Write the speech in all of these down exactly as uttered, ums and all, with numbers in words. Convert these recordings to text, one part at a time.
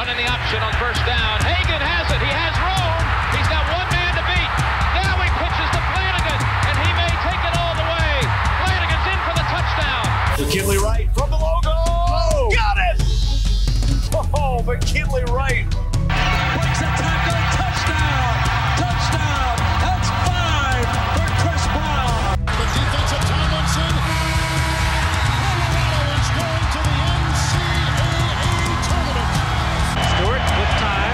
in the option on first down. Hagan has it. He has room. He's got one man to beat. Now he pitches to Flanagan, and he may take it all the way. Flanagan's in for the touchdown. McKinley Wright from the logo. Oh, got it! Oh, McKinley Wright. Breaks a tackle. Touchdown. Touchdown. That's five for Chris Brown. The defensive Tomlinson. Colorado is going to the N C double A tournament. Stewart with time.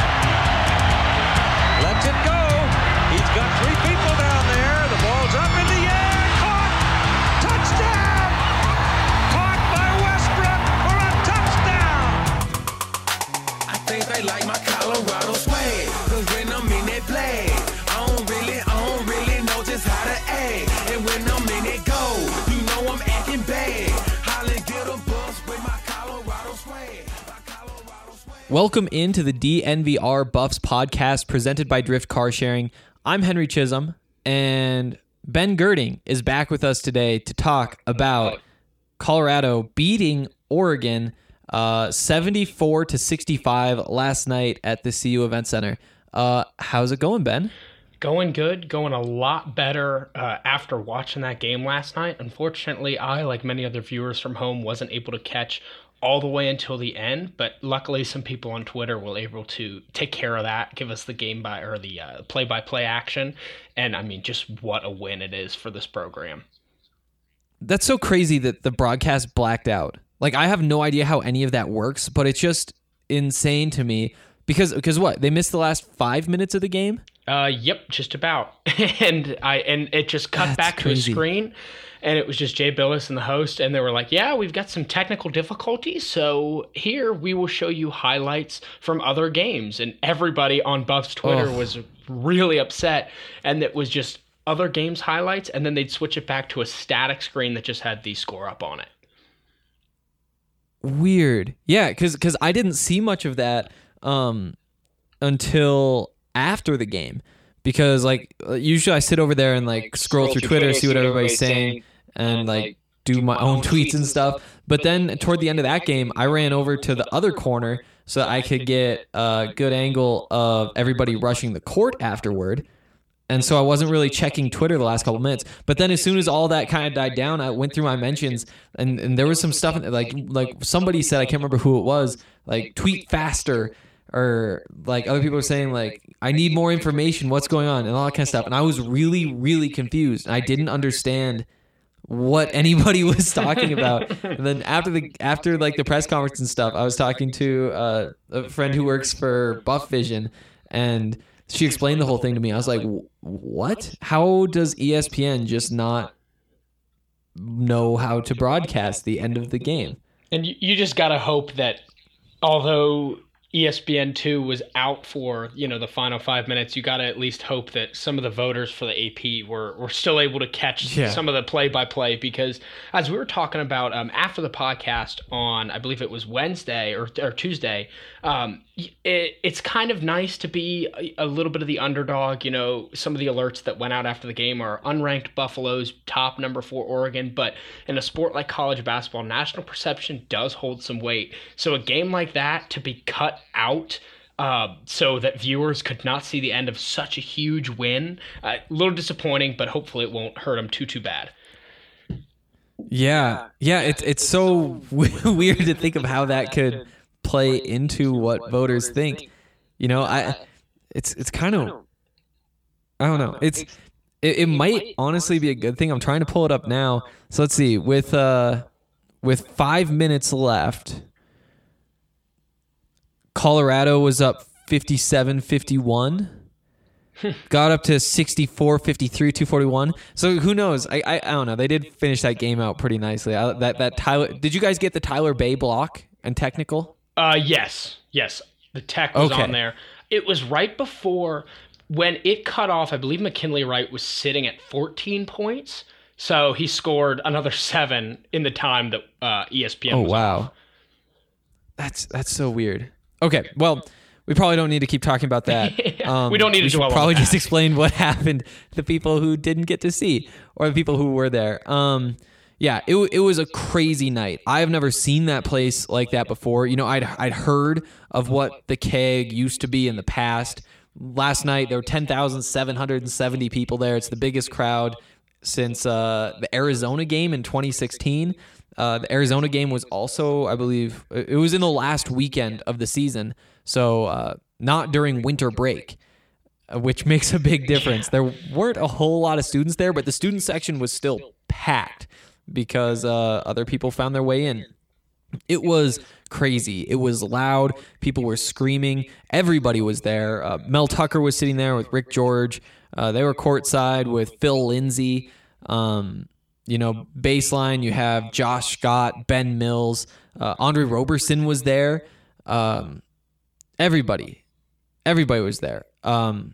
Lets it go. He's got three people down there. The ball's up in the air. Caught. Touchdown. Caught by Westbrook for a touchdown. I think they like my Colorado swag. Cause when I'm in that play, I don't really, I don't really know just how to act. And when I'm in it go, you know I'm acting bad. Holland get a bus with my Colorado swag. My Colorado swag. Welcome into the D N V R Buffs podcast presented by Drift Car Sharing. I'm Henry Chisholm, and Ben Girding is back with us today to talk about Colorado beating Oregon uh, seventy-four to sixty-five last night at the C U Event Center. Uh, how's it going, Ben? Going good, going a lot better uh, after watching that game last night. Unfortunately, I, like many other viewers from home, wasn't able to catch all the way until the end, but luckily some people on Twitter were able to take care of that, give us the game by or the uh, play-by-play action, and I mean, just what a win it is for this program. That's so crazy that the broadcast blacked out. Like, I have no idea how any of that works, but it's just insane to me because because what? They missed the last five minutes of the game? Uh, yep, just about. and I and it just cut That's back crazy. to a screen, and it was just Jay Billis and the host, and they were like, yeah, we've got some technical difficulties, so here we will show you highlights from other games. And everybody on Buff's Twitter Oh. was really upset, and it was just other games highlights, and then they'd switch it back to a static screen that just had the score up on it. Weird. Yeah, because because I didn't see much of that um, until after the game. Because, like, usually I sit over there and, like, scroll through Twitter, see what everybody's saying, and, like, do my own tweets and stuff. But then toward the end of that game, I ran over to the other corner so I could get a good angle of everybody rushing the court afterward. And so I wasn't really checking Twitter the last couple minutes. But then as soon as all that kind of died down, I went through my mentions, and, and there was some stuff, like like somebody said, I can't remember who it was, like, tweet faster, or like other people were saying, like, I need more information, what's going on, and all that kind of stuff. And I was really, really confused. I didn't understand what anybody was talking about. And then after the after like the press conference and stuff, I was talking to uh, a friend who works for Buff Vision, and she explained the whole thing to me. I was like, what? How does E S P N just not know how to broadcast the end of the game? And you, you just got to hope that although E S P N two was out for, you know, the final five minutes, you got to at least hope that some of the voters for the A P were, were still able to catch Yeah. some of the play-by-play, because as we were talking about um, after the podcast on, I believe it was Wednesday or, or Tuesday, um, it, it's kind of nice to be a, a little bit of the underdog. You know, some of the alerts that went out after the game are unranked Buffalo's top number four Oregon, but in a sport like college basketball, national perception does hold some weight. So a game like that to be cut out uh, so that viewers could not see the end of such a huge win, uh, a little disappointing, but hopefully it won't hurt them too, too bad. Yeah, yeah, it's it's so weird to think of how that could play into what voters think. You know, I it's it's kind of I don't know. It's it, it might honestly be a good thing. I'm trying to pull it up now. So let's see. With uh with five minutes left, Colorado was up fifty-seven fifty-one. Got up to sixty-four fifty-three, two forty-one. So who knows? I, I I don't know. They did finish that game out pretty nicely. I, that that Tyler. Did you guys get the Tyler Bay block and technical? Uh, yes, yes. The tech was Okay. on there. It was right before when it cut off. I believe McKinley Wright was sitting at fourteen points, so he scored another seven in the time that uh, E S P N Oh was wow, off. that's that's so weird. Okay, well, we probably don't need to keep talking about that. Um, We don't need to we should dwell on probably that. just explain what happened to the people who didn't get to see, or the people who were there. Um, Yeah, it it was a crazy night. I've never seen that place like that before. You know, I'd I'd heard of what the Keg used to be in the past. Last night there were ten thousand seven hundred seventy people there. It's the biggest crowd since uh, the Arizona game in twenty sixteen. Uh, the Arizona game was also, I believe, it was in the last weekend of the season, so uh, not during winter break, which makes a big difference. There weren't a whole lot of students there, but the student section was still packed because uh, other people found their way in. It was crazy. It was loud. People were screaming. Everybody was there. Uh, Mel Tucker was sitting there with Rick George. Uh, they were courtside with Phil Lindsay. Um, you know, baseline, you have Josh Scott, Ben Mills. Uh, Andre Roberson was there. Um, everybody. Everybody was there. Um,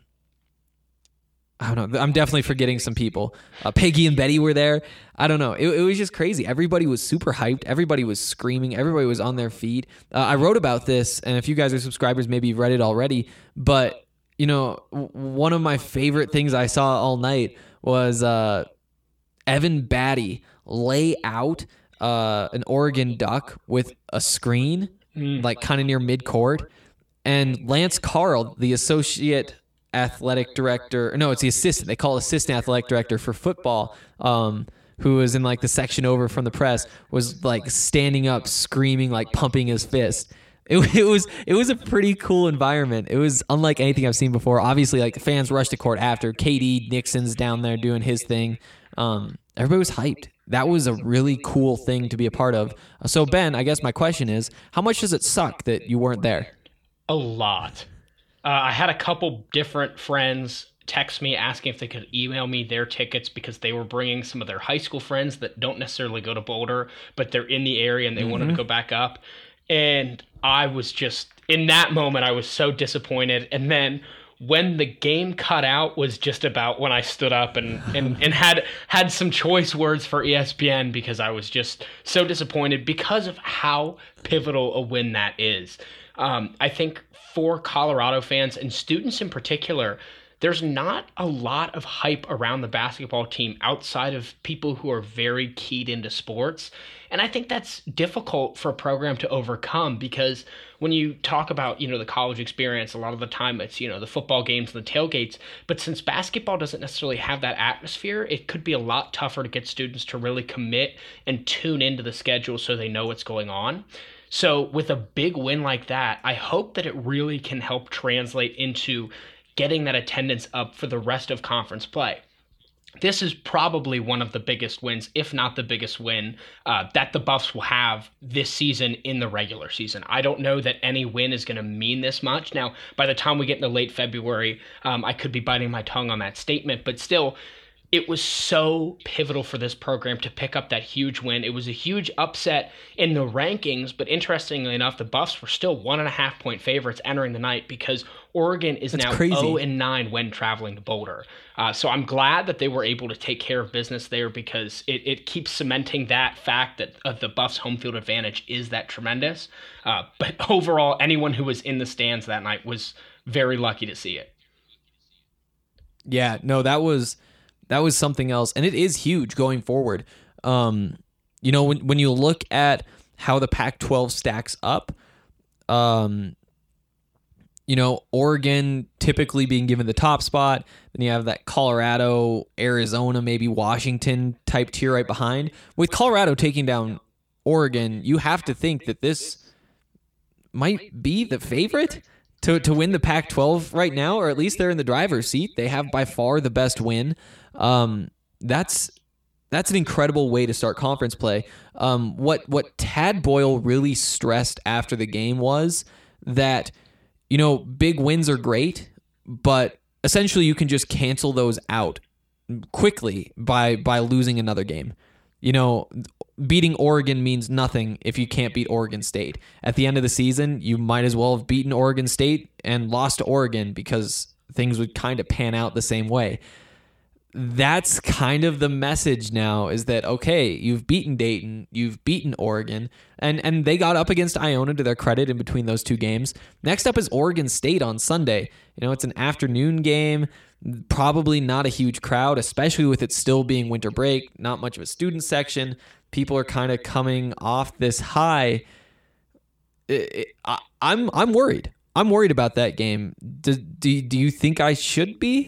I don't know. I'm definitely forgetting some people. Uh, Peggy and Betty were there. I don't know. It, it was just crazy. Everybody was super hyped. Everybody was screaming. Everybody was on their feet. Uh, I wrote about this, and if you guys are subscribers, maybe you've read it already. But, you know, w- one of my favorite things I saw all night was uh, Evan Batty lay out uh, an Oregon Duck with a screen, mm. like kind of near midcourt. And Lance Carl, the associate athletic director, no, it's the assistant. They call it assistant athletic director for football, um, who was in like the section over from the press, was like standing up, screaming, like pumping his fist. It, it was it was a pretty cool environment. It was unlike anything I've seen before. Obviously, like the fans rushed to court after. K D Nixon's down there doing his thing. Um, everybody was hyped. That was a really cool thing to be a part of. So Ben, I guess my question is, how much does it suck that you weren't there? A lot. Uh, I had a couple different friends text me asking if they could email me their tickets because they were bringing some of their high school friends that don't necessarily go to Boulder, but they're in the area and they mm-hmm. wanted to go back up. And I was just, in that moment, I was so disappointed. And then when the game cut out was just about when I stood up and, and, and had had some choice words for E S P N because I was just so disappointed because of how pivotal a win that is. Um, I think for Colorado fans and students in particular, there's not a lot of hype around the basketball team outside of people who are very keyed into sports. And I think that's difficult for a program to overcome because when you talk about, you know, the college experience, a lot of the time it's, you know, the football games and the tailgates. But since basketball doesn't necessarily have that atmosphere, it could be a lot tougher to get students to really commit and tune into the schedule so they know what's going on. So with a big win like that, I hope that it really can help translate into getting that attendance up for the rest of conference play. This is probably one of the biggest wins, if not the biggest win, uh, that the Buffs will have this season in the regular season. I don't know that any win is going to mean this much. Now, by the time we get into late February, um, I could be biting my tongue on that statement, but still, it was so pivotal for this program to pick up that huge win. It was a huge upset in the rankings, but interestingly enough, the Buffs were still one and a half point favorites entering the night because Oregon is That's now crazy. oh and nine when traveling to Boulder. Uh, so I'm glad that they were able to take care of business there because it, it keeps cementing that fact that uh, the Buffs' home field advantage is that tremendous. Uh, but overall, anyone who was in the stands that night was very lucky to see it. Yeah, no, that was... That was something else, and it is huge going forward. Um, you know, when when you look at how the Pac twelve stacks up, um, you know, Oregon typically being given the top spot, then you have that Colorado, Arizona, maybe Washington type tier right behind. With Colorado taking down Oregon, you have to think that this might be the favorite to to win the Pac twelve right now, or at least they're in the driver's seat. They have by far the best win. Um, that's that's an incredible way to start conference play. Um, what what Tad Boyle really stressed after the game was that, you know, big wins are great, but essentially you can just cancel those out quickly by by losing another game. You know, beating Oregon means nothing if you can't beat Oregon State. At the end of the season, you might as well have beaten Oregon State and lost to Oregon because things would kind of pan out the same way. That's kind of the message now is that, okay, you've beaten Dayton, you've beaten Oregon, and, and they got up against Iona to their credit in between those two games. Next up is Oregon State on Sunday. You know, it's an afternoon game. Probably not a huge crowd, especially with it still being winter break, not much of a student section. People are kind of coming off this high. It, it, I, I'm I'm worried. I'm worried about that game. Do, do, do you think I should be?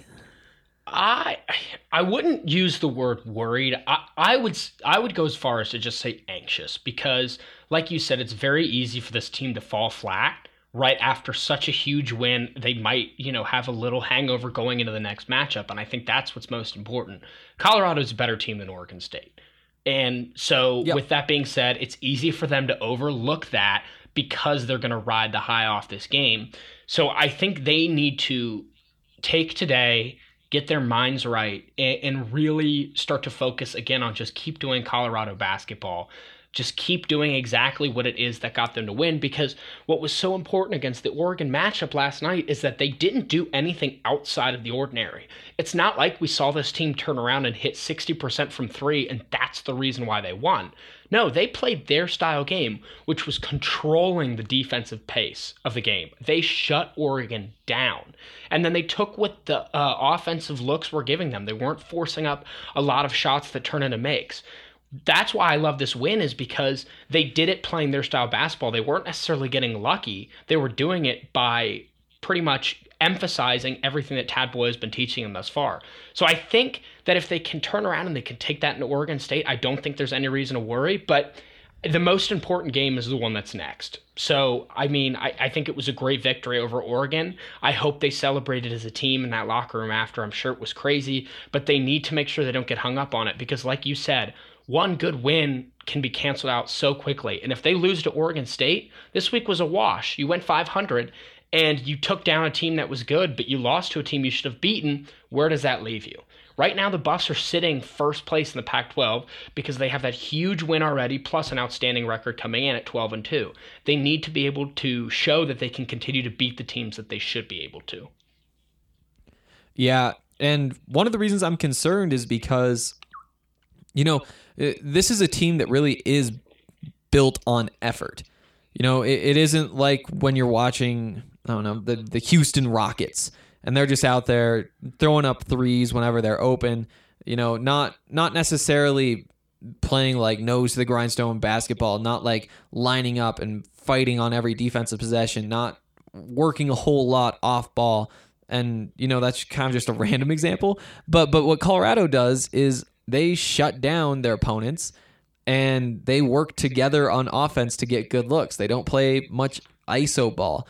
I I wouldn't use the word worried. I, I would I would go as far as to just say anxious, because like you said, it's very easy for this team to fall flat right after such a huge win. They might, you know, have a little hangover going into the next matchup, and I think that's what's most important. Colorado's a better team than Oregon State. And so yep. with that being said, it's easy for them to overlook that because they're going to ride the high off this game. So I think they need to take today, get their minds right, and, and really start to focus again on just keep doing Colorado basketball. Just keep doing exactly what it is that got them to win, because what was so important against the Oregon matchup last night is that they didn't do anything outside of the ordinary. It's not like we saw this team turn around and hit sixty percent from three, and that's the reason why they won. No, they played their style game, which was controlling the defensive pace of the game. They shut Oregon down. And then they took what the uh, offensive looks were giving them. They weren't forcing up a lot of shots that turn into makes. That's why I love this win, is because they did it playing their style basketball. They weren't necessarily getting lucky. They were doing it by pretty much emphasizing everything that Tad Boyle has been teaching them thus far. So I think that if they can turn around and they can take that into Oregon State, I don't think there's any reason to worry. But the most important game is the one that's next. So, I mean, I, I think it was a great victory over Oregon. I hope they celebrated as a team in that locker room after. I'm sure it was crazy, but they need to make sure they don't get hung up on it, because like you said, one good win can be canceled out so quickly. And if they lose to Oregon State, this week was a wash. You went five hundred and you took down a team that was good, but you lost to a team you should have beaten. Where does that leave you? Right now, the Buffs are sitting first place in the Pac twelve because they have that huge win already, plus an outstanding record coming in at twelve and two. They need to be able to show that they can continue to beat the teams that they should be able to. Yeah, and one of the reasons I'm concerned is because, you know, this is a team that really is built on effort. You know, it, it isn't like when you're watching, I don't know, the, the Houston Rockets, and they're just out there throwing up threes whenever they're open. You know, not not necessarily playing like nose to the grindstone basketball, not like lining up and fighting on every defensive possession, not working a whole lot off ball. And, you know, that's kind of just a random example. But but what Colorado does is they shut down their opponents and they work together on offense to get good looks. They don't play much I S O ball.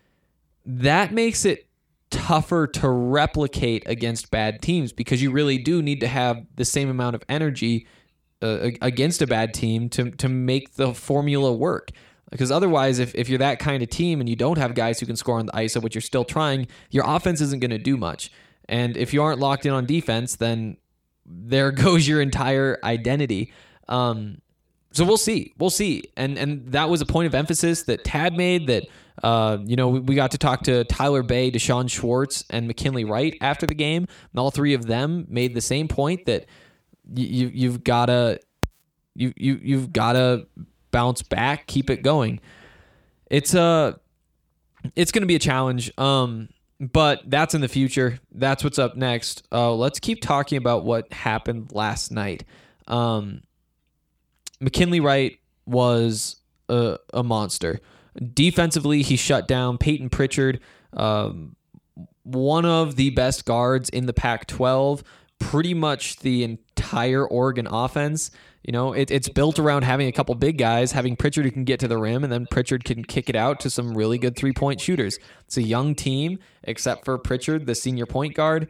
That makes it tougher to replicate against bad teams, because you really do need to have the same amount of energy uh, against a bad team to to make the formula work. Because otherwise, if, if you're that kind of team and you don't have guys who can score on the I S O, but you're still trying, your offense isn't going to do much. And if you aren't locked in on defense, then there goes your entire identity. Um, so we'll see. We'll see. And and that was a point of emphasis that Tad made, that, uh, you know, we, we got to talk to Tyler Bay, Deshaun Schwartz, and McKinley Wright after the game. And all three of them made the same point, that you, you've got to you, you, you've got to bounce back, keep it going. It's a, it's going to be a challenge. Um, But that's in the future. That's what's up next. Uh, let's keep talking about what happened last night. Um, McKinley Wright was a, a monster. Defensively, he shut down Peyton Pritchard, um, one of the best guards in the Pac twelve, pretty much the entire Oregon offense. You know, it, it's built around having a couple big guys, having Pritchard who can get to the rim, and then Pritchard can kick it out to some really good three-point shooters. It's a young team, except for Pritchard, the senior point guard.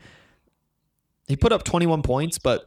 He put up twenty-one points, but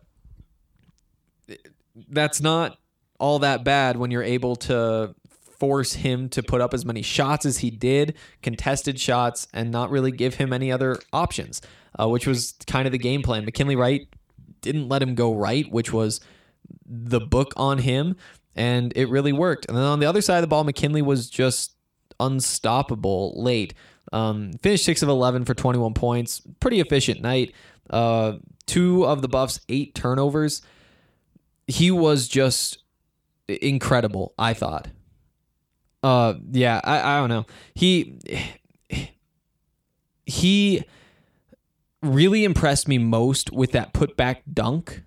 that's not all that bad when you're able to force him to put up as many shots as he did, contested shots, and not really give him any other options, uh, which was kind of the game plan. McKinley Wright didn't let him go right, which was the book on him, and it really worked. And then on the other side of the ball, McKinley was just unstoppable late. Um, finished six of eleven for twenty-one points. Pretty efficient night. Uh, two of the Buffs' eight turnovers. He was just incredible, I thought. Uh, yeah, I, I don't know. He he really impressed me most with that putback dunk,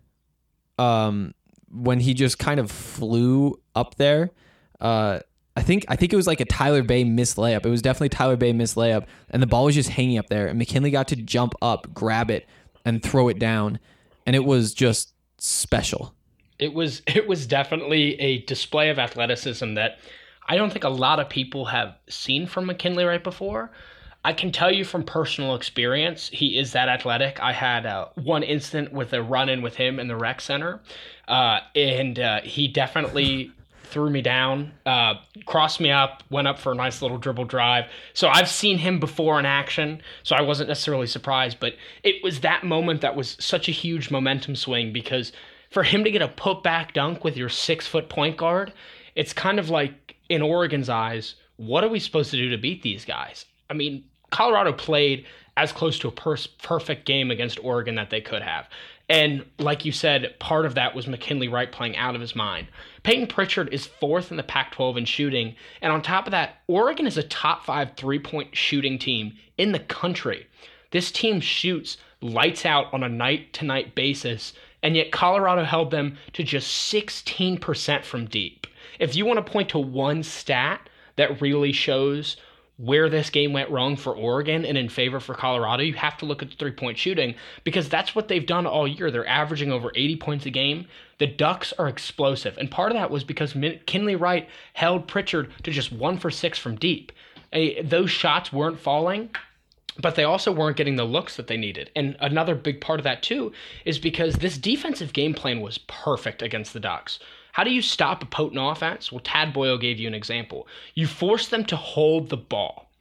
um, when he just kind of flew up there. Uh, I think I think it was like a Tyler Bay missed layup. It was definitely Tyler Bay missed layup, and the ball was just hanging up there, and McKinley got to jump up, grab it, and throw it down, and it was just special. It was it was definitely a display of athleticism that I don't think a lot of people have seen from McKinley Wright before. I can tell you from personal experience, he is that athletic. I had uh, one incident with a run-in with him in the rec center, uh, and uh, he definitely threw me down, uh, crossed me up, went up for a nice little dribble drive. So I've seen him before in action, so I wasn't necessarily surprised, but it was that moment that was such a huge momentum swing, because for him to get a put-back dunk with your six-foot point guard, it's kind of like, in Oregon's eyes, what are we supposed to do to beat these guys? I mean, Colorado played as close to a per- perfect game against Oregon that they could have. And like you said, part of that was McKinley Wright playing out of his mind. Peyton Pritchard is fourth in the Pac twelve in shooting. And on top of that, Oregon is a top five three-point shooting team in the country. This team shoots lights out on a night-to-night basis, and yet Colorado held them to just sixteen percent from deep. If you want to point to one stat that really shows where this game went wrong for Oregon and in favor for Colorado, you have to look at the three-point shooting, because that's what they've done all year. They're averaging over eighty points a game. The Ducks are explosive, and part of that was because McKinley Wright held Pritchard to just one for six from deep. A, those shots weren't falling, but they also weren't getting the looks that they needed. And another big part of that, too, is because this defensive game plan was perfect against the Ducks. How do you stop a potent offense? Well, Tad Boyle gave you an example. You force them to hold the ball.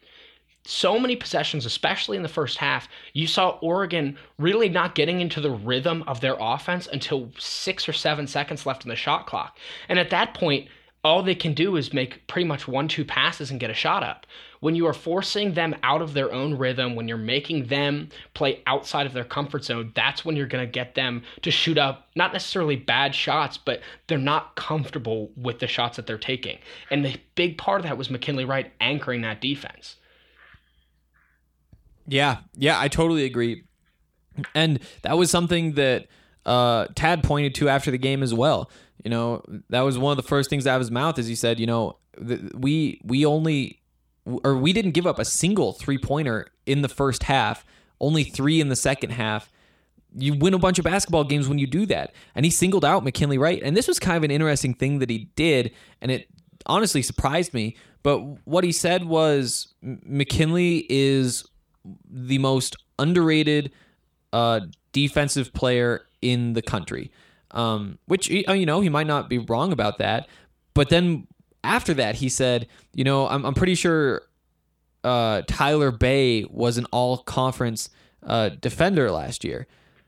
So many possessions, especially in the first half, you saw Oregon really not getting into the rhythm of their offense until six or seven seconds left in the shot clock. And at that point, all they can do is make pretty much one, two passes and get a shot up. When you are forcing them out of their own rhythm, when you're making them play outside of their comfort zone, that's when you're going to get them to shoot up, not necessarily bad shots, but they're not comfortable with the shots that they're taking. And the big part of that was McKinley Wright anchoring that defense. Yeah, yeah, I totally agree. And that was something that uh, Tad pointed to after the game as well. You know, that was one of the first things out of his mouth, as he said, you know, th- we we only, or we didn't give up a single three-pointer in the first half, only three in the second half. You win a bunch of basketball games when you do that. And he singled out McKinley Wright. And this was kind of an interesting thing that he did, and it honestly surprised me. But what he said was McKinley is the most underrated uh, defensive player in the country. Um, which, you know, he might not be wrong about that. But then after that, he said, you know, I'm, I'm pretty sure uh, Tyler Bay was an all-conference uh, defender last year.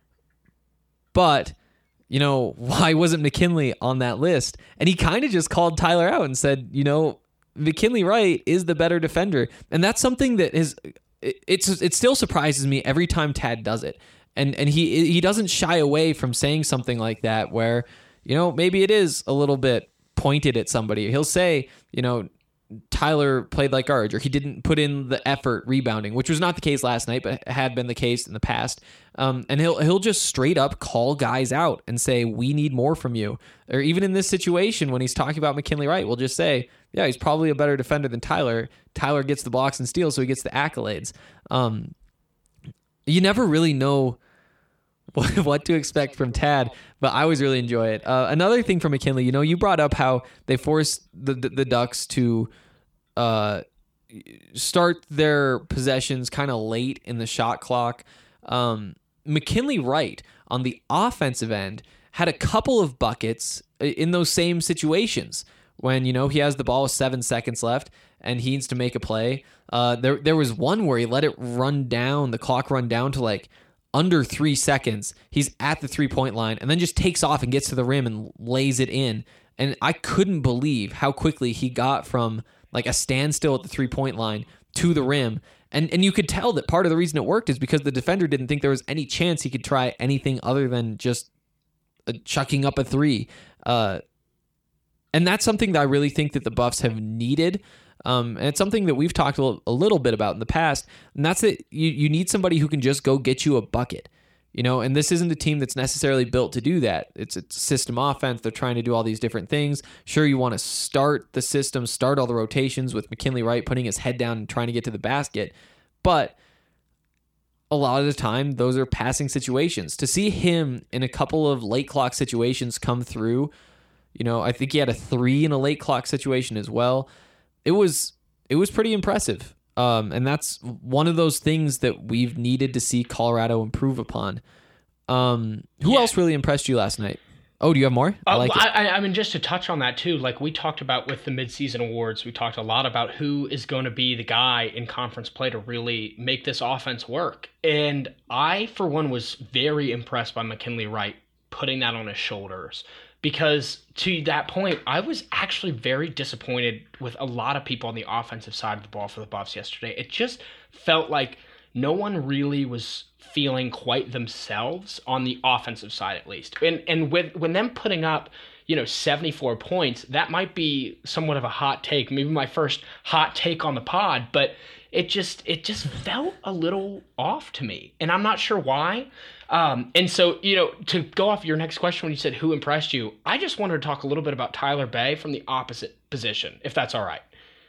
But, you know, why wasn't McKinley on that list? And he kind of just called Tyler out and said, you know, McKinley Wright is the better defender. And that's something that is, it, it's it still surprises me every time Tad does it. And and he he doesn't shy away from saying something like that where, you know, maybe it is a little bit pointed at somebody. He'll say, you know, Tyler played like garbage, or he didn't put in the effort rebounding, which was not the case last night, but had been the case in the past. Um, and he'll he'll just straight up call guys out and say, we need more from you. Or even in this situation, when he's talking about McKinley Wright, we'll just say, yeah, he's probably a better defender than Tyler. Tyler gets the blocks and steals, so he gets the accolades. Um, you never really know what to expect from Tad, but I always really enjoy it. Uh, another thing from McKinley, you know, you brought up how they forced the the, the Ducks to uh, start their possessions kind of late in the shot clock. Um, McKinley Wright on the offensive end had a couple of buckets in those same situations when, you know, he has the ball with seven seconds left and he needs to make a play. Uh, there there was one where he let it run down, the clock run down to like under three seconds. He's at the three-point line and then just takes off and gets to the rim and lays it in. And I couldn't believe how quickly he got from like a standstill at the three-point line to the rim. And and you could tell that part of the reason it worked is because the defender didn't think there was any chance he could try anything other than just uh, chucking up a three. Uh, and that's something that I really think that the Buffs have needed. Um, and it's something that we've talked a little, a little bit about in the past, and that's that you, you need somebody who can just go get you a bucket. You know, and this isn't a team that's necessarily built to do that. It's a system offense. They're trying to do all these different things. Sure, you want to start the system, start all the rotations with McKinley Wright putting his head down and trying to get to the basket. But a lot of the time, those are passing situations. To see him in a couple of late clock situations come through, you know, I think he had a three in a late clock situation as well. It was it was pretty impressive. Um, and that's one of those things that we've needed to see Colorado improve upon. Um, who Yeah. else really impressed you last night? Oh, do you have more? I Uh, like well, it. I, I mean, just to touch on that too, like we talked about with the midseason awards, we talked a lot about who is going to be the guy in conference play to really make this offense work. And I, for one, was very impressed by McKinley Wright putting that on his shoulders. Because to that point, I was actually very disappointed with a lot of people on the offensive side of the ball for the Buffs yesterday. It just felt like no one really was feeling quite themselves on the offensive side, at least. And and with when them putting up, you know, seventy-four points, that might be somewhat of a hot take, maybe my first hot take on the pod, but it just it just felt a little off to me, and I'm not sure why. Um, and so, you know, to go off your next question when you said who impressed you, I just wanted to talk a little bit about Tyler Bay from the opposite position, if that's all right.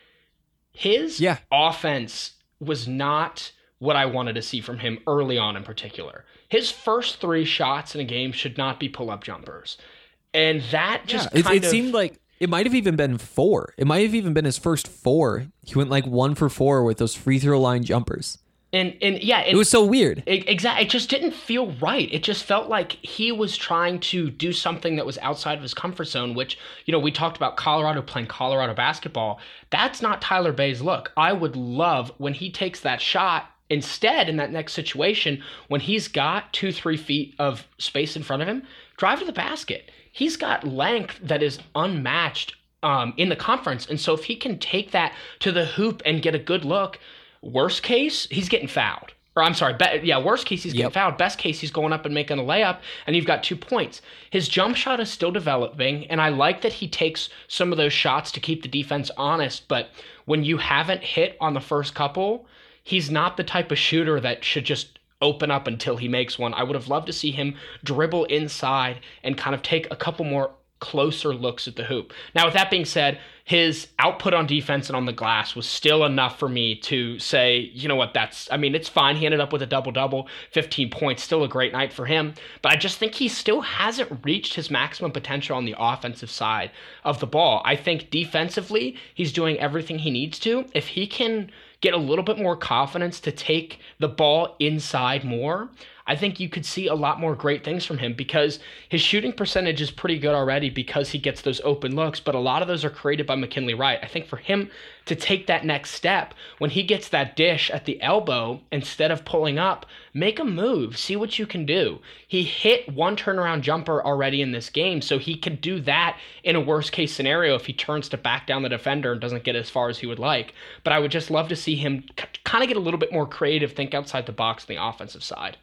His Yeah. offense was not what I wanted to see from him early on in particular. His first three shots in a game should not be pull-up jumpers. And that just Yeah, it, kind it of... seemed like it might have even been four. It might have even been his first four. He went like one for four with those free throw line jumpers. And, and yeah, It was so weird. Exactly. It just didn't feel right. It just felt like he was trying to do something that was outside of his comfort zone, which, you know, we talked about Colorado playing Colorado basketball. That's not Tyler Bay's look. I would love when he takes that shot instead in that next situation, when he's got two, three feet of space in front of him, drive to the basket. He's got length that is unmatched um, in the conference. And so if he can take that to the hoop and get a good look, worst case, he's getting fouled. Or I'm sorry, be, yeah, worst case, he's getting Yep. fouled. Best case, he's going up and making a layup, and you've got two points. His jump shot is still developing, and I like that he takes some of those shots to keep the defense honest, but when you haven't hit on the first couple, he's not the type of shooter that should just open up until he makes one. I would have loved to see him dribble inside and kind of take a couple more closer looks at the hoop. Now, with that being said, his output on defense and on the glass was still enough for me to say, you know what, that's, I mean, it's fine. He ended up with a double-double, fifteen points, still a great night for him. But I just think he still hasn't reached his maximum potential on the offensive side of the ball. I think defensively, he's doing everything he needs to. If he can get a little bit more confidence to take the ball inside more, I think you could see a lot more great things from him, because his shooting percentage is pretty good already because he gets those open looks, but a lot of those are created by McKinley Wright. I think for him to take that next step, when he gets that dish at the elbow, instead of pulling up, make a move, see what you can do. He hit one turnaround jumper already in this game, so he could do that in a worst case scenario if he turns to back down the defender and doesn't get as far as he would like. But I would just love to see him c- kind of get a little bit more creative, think outside the box on the offensive side.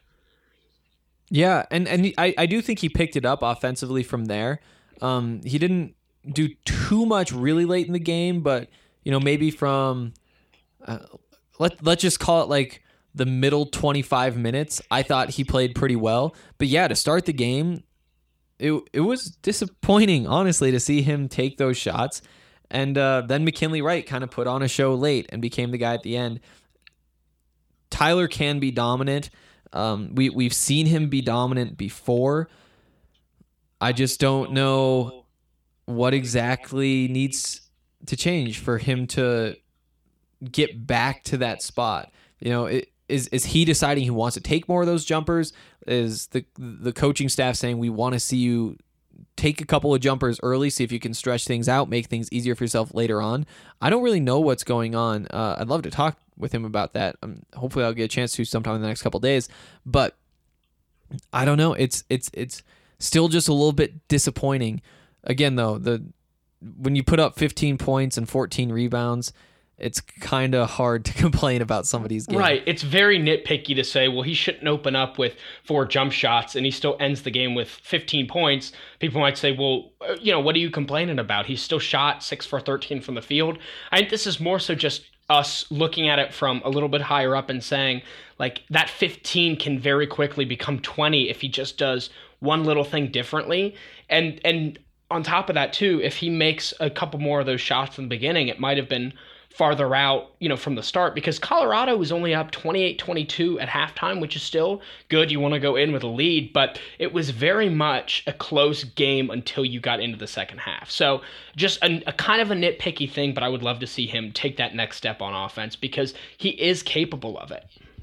Yeah, and, and he- I, I do think he picked it up offensively from there. Um, he didn't do too much really late in the game, but you know, maybe from uh, let let's just call it like the middle twenty-five minutes, I thought he played pretty well. But yeah, to start the game, it it was disappointing, honestly, to see him take those shots. And uh, then McKinley Wright kind of put on a show late and became the guy at the end. Tyler can be dominant. Um, we we've seen him be dominant before. I just don't know what exactly needs to change for him to get back to that spot. You know, it, is is he deciding he wants to take more of those jumpers? Is the the coaching staff saying we want to see you take a couple of jumpers early, see if you can stretch things out, make things easier for yourself later on? I don't really know what's going on. Uh, I'd love to talk with him about that. Um, hopefully I'll get a chance to sometime in the next couple of days, but I don't know. It's it's it's still just a little bit disappointing. Again, though, the when you put up fifteen points and fourteen rebounds, it's kind of hard to complain about somebody's game. Right. It's very nitpicky to say, well, he shouldn't open up with four jump shots and he still ends the game with fifteen points. People might say, well, you know, what are you complaining about? He's still shot six for thirteen from the field. I think this is more so just us looking at it from a little bit higher up and saying, like, that fifteen can very quickly become twenty if he just does one little thing differently. And and on top of that, too, if he makes a couple more of those shots in the beginning, it might have been farther out, you know, from the start, because Colorado was only up twenty-eight twenty-two at halftime, which is still good. You want to go in with a lead, but it was very much a close game until you got into the second half. So just a, a kind of a nitpicky thing, but I would love to see him take that next step on offense because he is capable of it.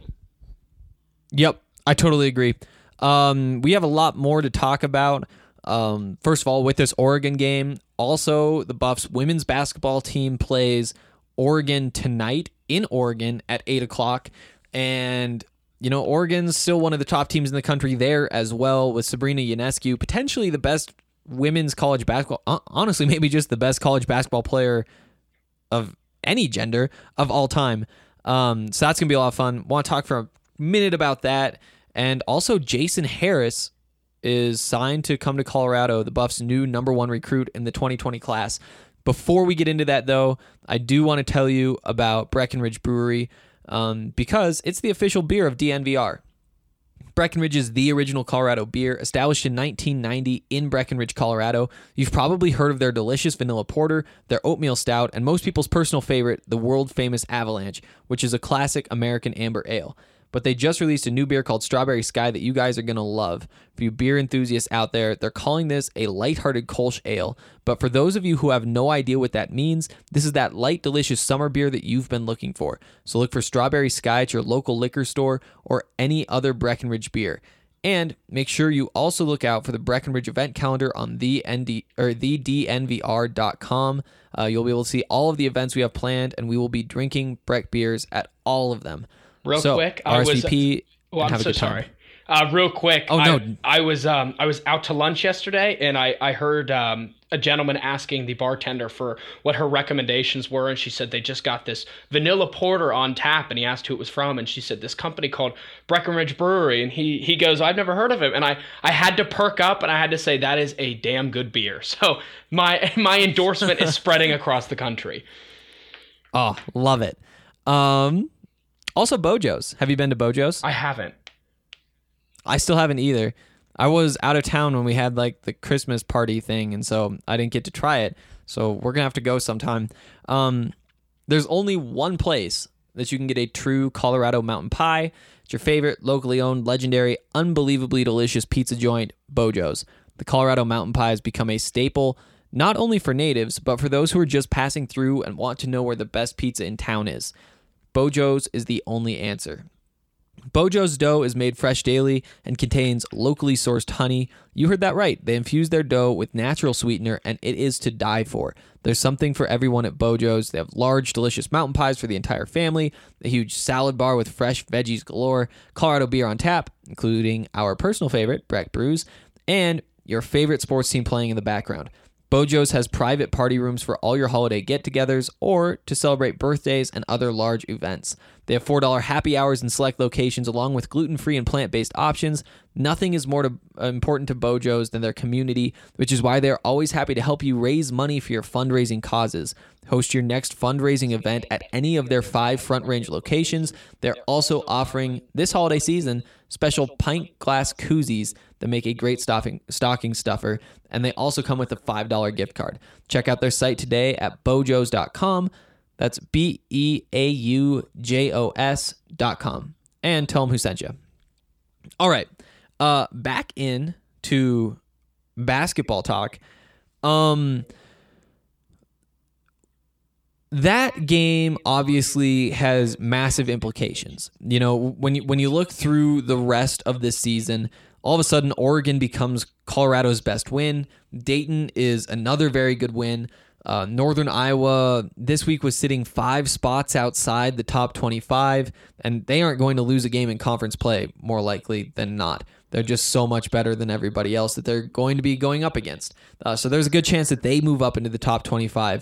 Yep, I totally agree. Um, we have a lot more to talk about. Um, first of all, with this Oregon game, also the Buffs women's basketball team plays Oregon tonight in Oregon at eight o'clock. And, you know, Oregon's still one of the top teams in the country there as well, with Sabrina Ionescu, potentially the best women's college basketball, honestly, maybe just the best college basketball player of any gender of all time. Um, so that's going to be a lot of fun. Want to talk for a minute about that. And also Jason Harris is signed to come to Colorado, the Buffs' new number one recruit in the twenty twenty class. Before we get into that, though, I do want to tell you about Breckenridge Brewery um, because it's the official beer of D N V R. Breckenridge is the original Colorado beer, established in nineteen ninety in Breckenridge, Colorado. You've probably heard of their delicious vanilla porter, their oatmeal stout, and most people's personal favorite, the world-famous Avalanche, which is a classic American amber ale. But they just released a new beer called Strawberry Sky that you guys are going to love. For you beer enthusiasts out there, they're calling this a lighthearted Kolsch ale. But for those of you who have no idea what that means, this is that light, delicious summer beer that you've been looking for. So look for Strawberry Sky at your local liquor store or any other Breckenridge beer. And make sure you also look out for the Breckenridge event calendar on the N D or the D N V R dot com. Uh, you'll be able to see all of the events we have planned, and we will be drinking Breck beers at all of them. Real so, quick, I R S V P. was. Well, I'm have a so good time. sorry. Uh, real quick, Oh no! I, I was um I was out to lunch yesterday, and I I heard um a gentleman asking the bartender for what her recommendations were, and she said they just got this vanilla porter on tap, and he asked who it was from, and she said this company called Breckenridge Brewery, and he he goes, I've never heard of it, and I I had to perk up, and I had to say that is a damn good beer. So my my endorsement is spreading across the country. Oh, love it. Um. Also, Bojo's. Have you been to Bojo's? I haven't. I still haven't either. I was out of town when we had like the Christmas party thing, and so I didn't get to try it. So we're gonna have to go sometime. Um, there's only one place that you can get a true Colorado mountain pie. It's your favorite locally owned, legendary, unbelievably delicious pizza joint, Bojo's. The Colorado mountain pie has become a staple, not only for natives, but for those who are just passing through and want to know where the best pizza in town is. Bojo's is the only answer. Bojo's dough is made fresh daily and contains locally sourced honey. You heard that right. They infuse their dough with natural sweetener, and it is to die for. There's something for everyone at Bojo's. They have large, delicious mountain pies for the entire family, a huge salad bar with fresh veggies galore, Colorado beer on tap, including our personal favorite, Breck Brews, and your favorite sports team playing in the background. Bojo's has private party rooms for all your holiday get-togethers or to celebrate birthdays and other large events. They have four dollars happy hours in select locations along with gluten-free and plant-based options. Nothing is more to, uh, important to Bojo's than their community, which is why they're always happy to help you raise money for your fundraising causes. Host your next fundraising event at any of their five Front Range locations. They're also offering, this holiday season, special pint glass koozies that make a great stocking, stocking stuffer, and they also come with a five dollars gift card. Check out their site today at bojos dot com. That's B E A U J O S dot com. And tell them who sent you. All right. Uh, back in to basketball talk. Um, that game obviously has massive implications. You know, when you when you look through the rest of this season, all of a sudden Oregon becomes Colorado's best win. Dayton is another very good win. Uh, Northern Iowa this week was sitting five spots outside the top twenty-five, and they aren't going to lose a game in conference play, more likely than not. They're just so much better than everybody else that they're going to be going up against. Uh, so there's a good chance that they move up into the top twenty-five.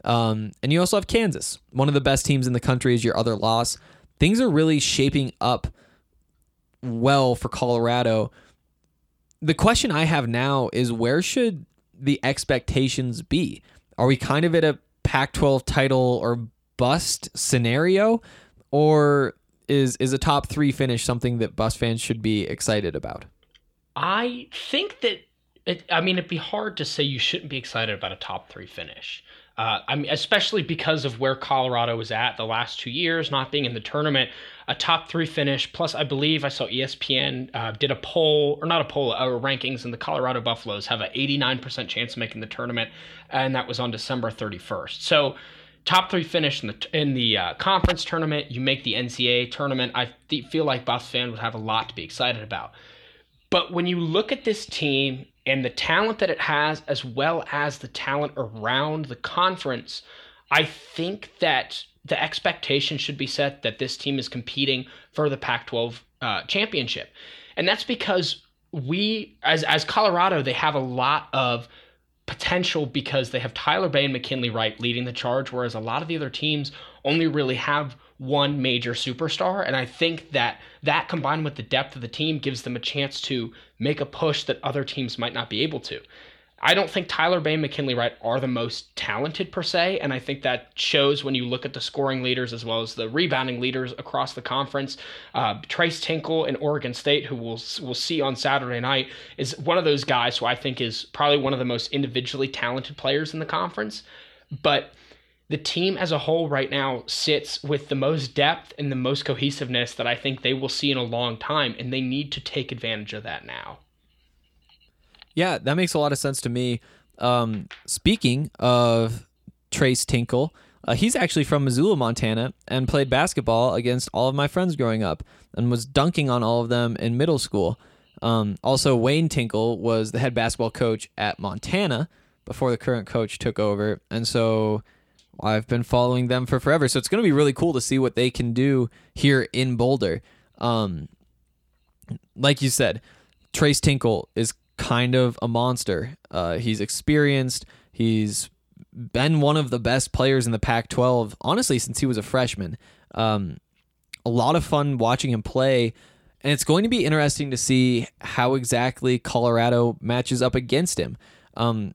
Um, and you also have Kansas, one of the best teams in the country, is your other loss. Things are really shaping up well for Colorado. The question I have now is, where should the expectations be? Are we kind of at a Pac twelve title or bust scenario, or is is a top three finish something that Buffs fans should be excited about? I think that, it, I mean, it'd be hard to say you shouldn't be excited about a top three finish. Uh, I mean, especially because of where Colorado was at the last two years, not being in the tournament, a top three finish. Plus, I believe I saw E S P N uh, did a poll, or not a poll, uh, rankings, and the Colorado Buffaloes have an eighty-nine percent chance of making the tournament, and that was on December thirty-first. So, top three finish in the in the uh, conference tournament, you make the N C double A tournament. I th- feel like Buffs fans would have a lot to be excited about. But when you look at this team and the talent that it has, as well as the talent around the conference, I think that the expectation should be set that this team is competing for the Pac twelve uh, championship. And that's because we, as as Colorado, they have a lot of potential because they have Tyler Bay and McKinley Wright leading the charge, whereas a lot of the other teams only really have one major superstar. And I think that that combined with the depth of the team gives them a chance to make a push that other teams might not be able to. I don't think Tyler Bay and McKinley Wright are the most talented per se, and I think that shows when you look at the scoring leaders as well as the rebounding leaders across the conference. Uh, Trace Tinkle in Oregon State, who we'll, we'll see on Saturday night, is one of those guys who I think is probably one of the most individually talented players in the conference. But the team as a whole right now sits with the most depth and the most cohesiveness that I think they will see in a long time, and they need to take advantage of that now. Yeah, that makes a lot of sense to me. Um, speaking of Trace Tinkle, uh, he's actually from Missoula, Montana, and played basketball against all of my friends growing up and was dunking on all of them in middle school. Um, also, Wayne Tinkle was the head basketball coach at Montana before the current coach took over, and so I've been following them for forever. So it's going to be really cool to see what they can do here in Boulder. Um, like you said, Trace Tinkle is kind of a monster. Uh, he's experienced. He's been one of the best players in the Pac twelve, honestly, since he was a freshman. Um, a lot of fun watching him play, and it's going to be interesting to see how exactly Colorado matches up against him. Um,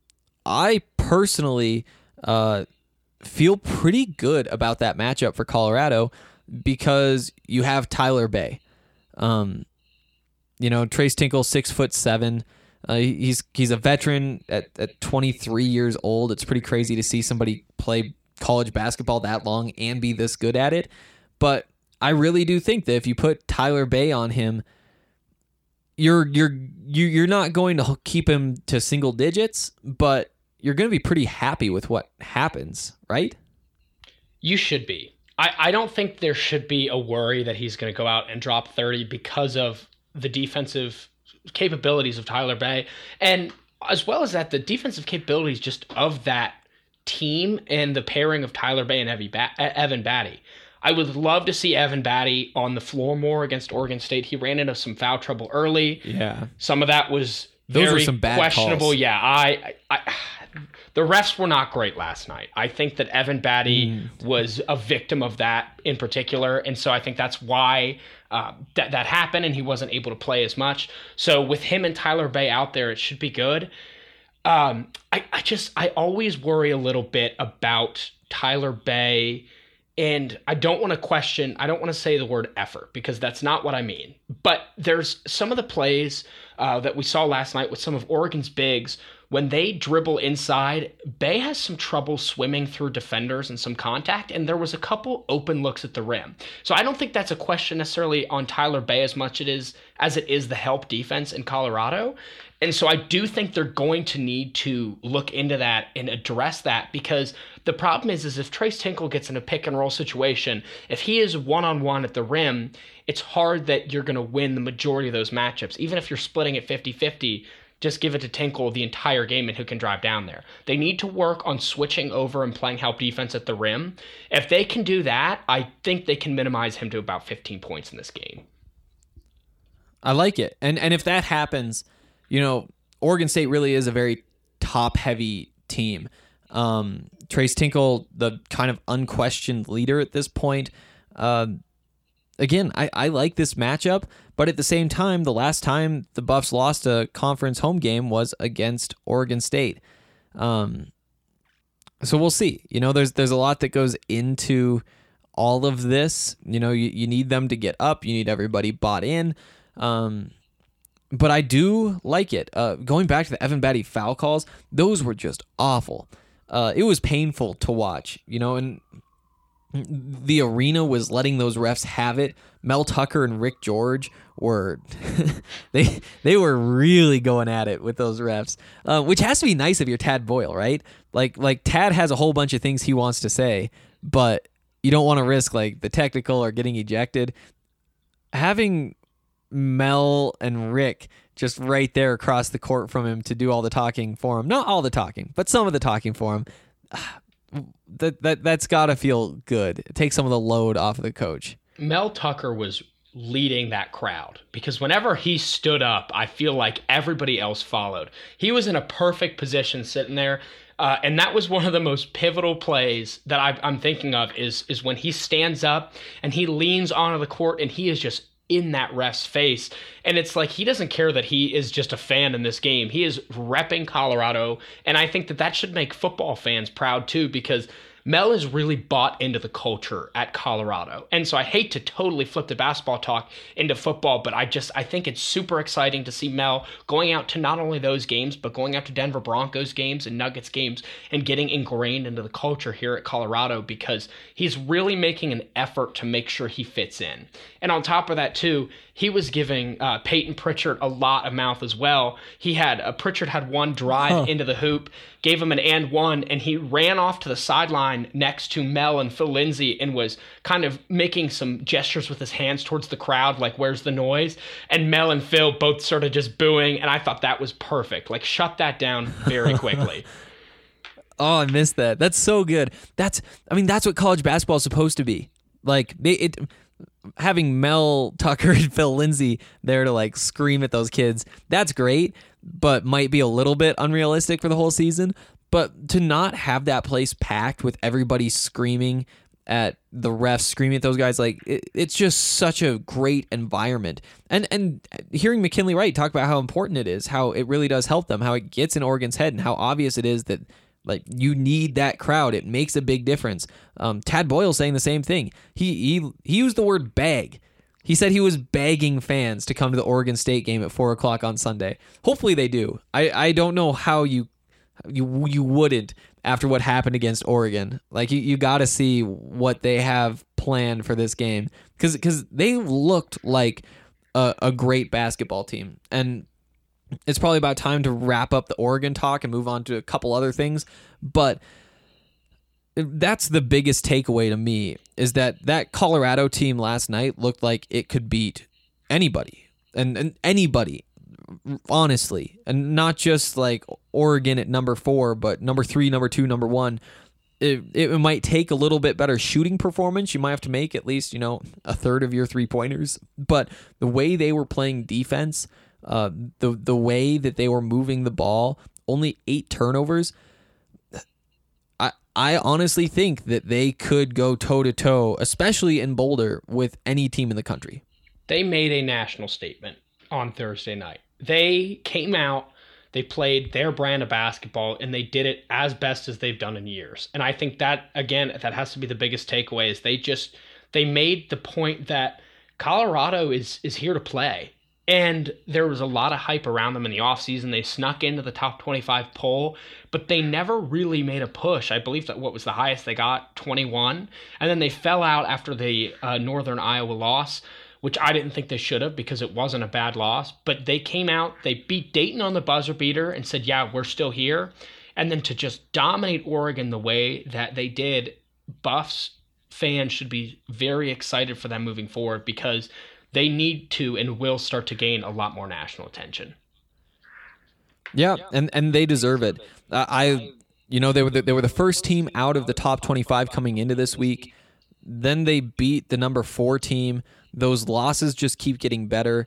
I personally uh, feel pretty good about that matchup for Colorado because you have Tyler Bay. Um, You know, Trace Tinkle, six foot seven. Uh, he's he's a veteran at, at twenty-three years old. It's pretty crazy to see somebody play college basketball that long and be this good at it. But I really do think that if you put Tyler Bay on him, you're you're you you're not going to keep him to single digits, but you're going to be pretty happy with what happens, right? You should be. I, I don't think there should be a worry that he's going to go out and drop thirty because of the defensive capabilities of Tyler Bay, and as well as that, the defensive capabilities just of that team and the pairing of Tyler Bay and Evan Batty. I would love to see Evan Batty on the floor more against Oregon State. He ran into some foul trouble early. Yeah. Some of that was Those very were some bad questionable. calls. Yeah, I, I, I the refs were not great last night. I think that Evan Batty mm. was a victim of that in particular, and so I think that's why uh, that that happened, and he wasn't able to play as much. So with him and Tyler Bay out there, it should be good. Um, I, I just I always worry a little bit about Tyler Bay. And I don't want to question, I don't want to say the word effort because that's not what I mean. But there's some of the plays uh, that we saw last night with some of Oregon's bigs. When they dribble inside, Bay has some trouble swimming through defenders and some contact, and there was a couple open looks at the rim. So I don't think that's a question necessarily on Tyler Bay as much it is as it is the help defense in Colorado. And so I do think they're going to need to look into that and address that because the problem is, is if Trace Tinkle gets in a pick and roll situation, if he is one-on-one at the rim, it's hard that you're going to win the majority of those matchups. Even if you're splitting it fifty-fifty, just give it to Tinkle the entire game and who can drive down there. They need to work on switching over and playing help defense at the rim. If they can do that, I think they can minimize him to about fifteen points in this game. I like it. And and if that happens, you know, Oregon State really is a very top-heavy team. Um, Trace Tinkle, the kind of unquestioned leader at this point. Um, again, I, I like this matchup, but at the same time, the last time the Buffs lost a conference home game was against Oregon State. Um, so we'll see. You know, there's there's a lot that goes into all of this. You know, you, you need them to get up. You need everybody bought in. Um, but I do like it. Uh, going back to the Evan Batty foul calls, those were just awful. Uh, it was painful to watch, you know, and the arena was letting those refs have it. Mel Tucker and Rick George were they they were really going at it with those refs, uh, which has to be nice if you're Tad Boyle, right? Like like Tad has a whole bunch of things he wants to say, but you don't want to risk like the technical or getting ejected. Having Mel and Rick just right there across the court from him to do all the talking for him, not all the talking, but some of the talking for him. That that that's gotta feel good. It takes some of the load off of the coach. Mel Tucker was leading that crowd because whenever he stood up, I feel like everybody else followed. He was in a perfect position sitting there. Uh, and that was one of the most pivotal plays that I, I'm thinking of is, is when he stands up and he leans onto the court and he is just in that ref's face. And it's like he doesn't care that he is just a fan in this game. He is repping Colorado. And I think that that should make football fans proud too, because Mel is really bought into the culture at Colorado. And so I hate to totally flip the basketball talk into football, but I just, I think it's super exciting to see Mel going out to not only those games, but going out to Denver Broncos games and Nuggets games and getting ingrained into the culture here at Colorado because he's really making an effort to make sure he fits in. And on top of that too, he was giving uh, Peyton Pritchard a lot of mouth as well. He had, uh, Pritchard had one drive huh. into the hoop, gave him an and one, and he ran off to the sideline next to Mel and Phil Lindsay and was kind of making some gestures with his hands towards the crowd, like, where's the noise? And Mel and Phil both sort of just booing, and I thought that was perfect. Like, shut that down very quickly. Oh, I missed that. That's so good. That's, I mean, that's what college basketball is supposed to be. Like, they, it... having Mel Tucker and Phil Lindsay there to like scream at those kids, that's great, but might be a little bit unrealistic for the whole season. But to not have that place packed with everybody screaming at the refs, screaming at those guys, like it, it's just such a great environment. And and hearing McKinley Wright talk about how important it is, how it really does help them, how it gets in Oregon's head, and how obvious it is that like you need that crowd. It makes a big difference. Um, Tad Boyle saying the same thing. He he he used the word beg. He said he was begging fans to come to the Oregon State game at four o'clock on Sunday. Hopefully they do. I, I don't know how you you you wouldn't after what happened against Oregon. Like you, you got to see what they have planned for this game because because they looked like a, a great basketball team. And it's probably about time to wrap up the Oregon talk and move on to a couple other things. But that's the biggest takeaway to me is that that Colorado team last night looked like it could beat anybody and, and anybody, honestly, and not just like Oregon at number four, but number three, number two, number one. It, it might take a little bit better shooting performance. You might have to make at least, you know, a third of your three pointers, but the way they were playing defense, Uh, the the way that they were moving the ball, only eight turnovers. I I honestly think that they could go toe to toe, especially in Boulder, with any team in the country. They made a national statement on Thursday night. They came out, they played their brand of basketball, and they did it as best as they've done in years. And I think that, again, that has to be the biggest takeaway is they just, they made the point that Colorado is is here to play. And there was a lot of hype around them in the offseason. They snuck into the top twenty-five poll, but they never really made a push. I believe that what was the highest they got, twenty-one. And then they fell out after the uh, Northern Iowa loss, which I didn't think they should have because it wasn't a bad loss. But they came out, they beat Dayton on the buzzer beater and said, yeah, we're still here. And then to just dominate Oregon the way that they did, Buffs fans should be very excited for them moving forward because they need to and will start to gain a lot more national attention. Yeah, and, and they deserve it. Uh, I, you know, they were the, they were the first team out of the top twenty-five coming into this week. Then they beat the number four team. Those losses just keep getting better.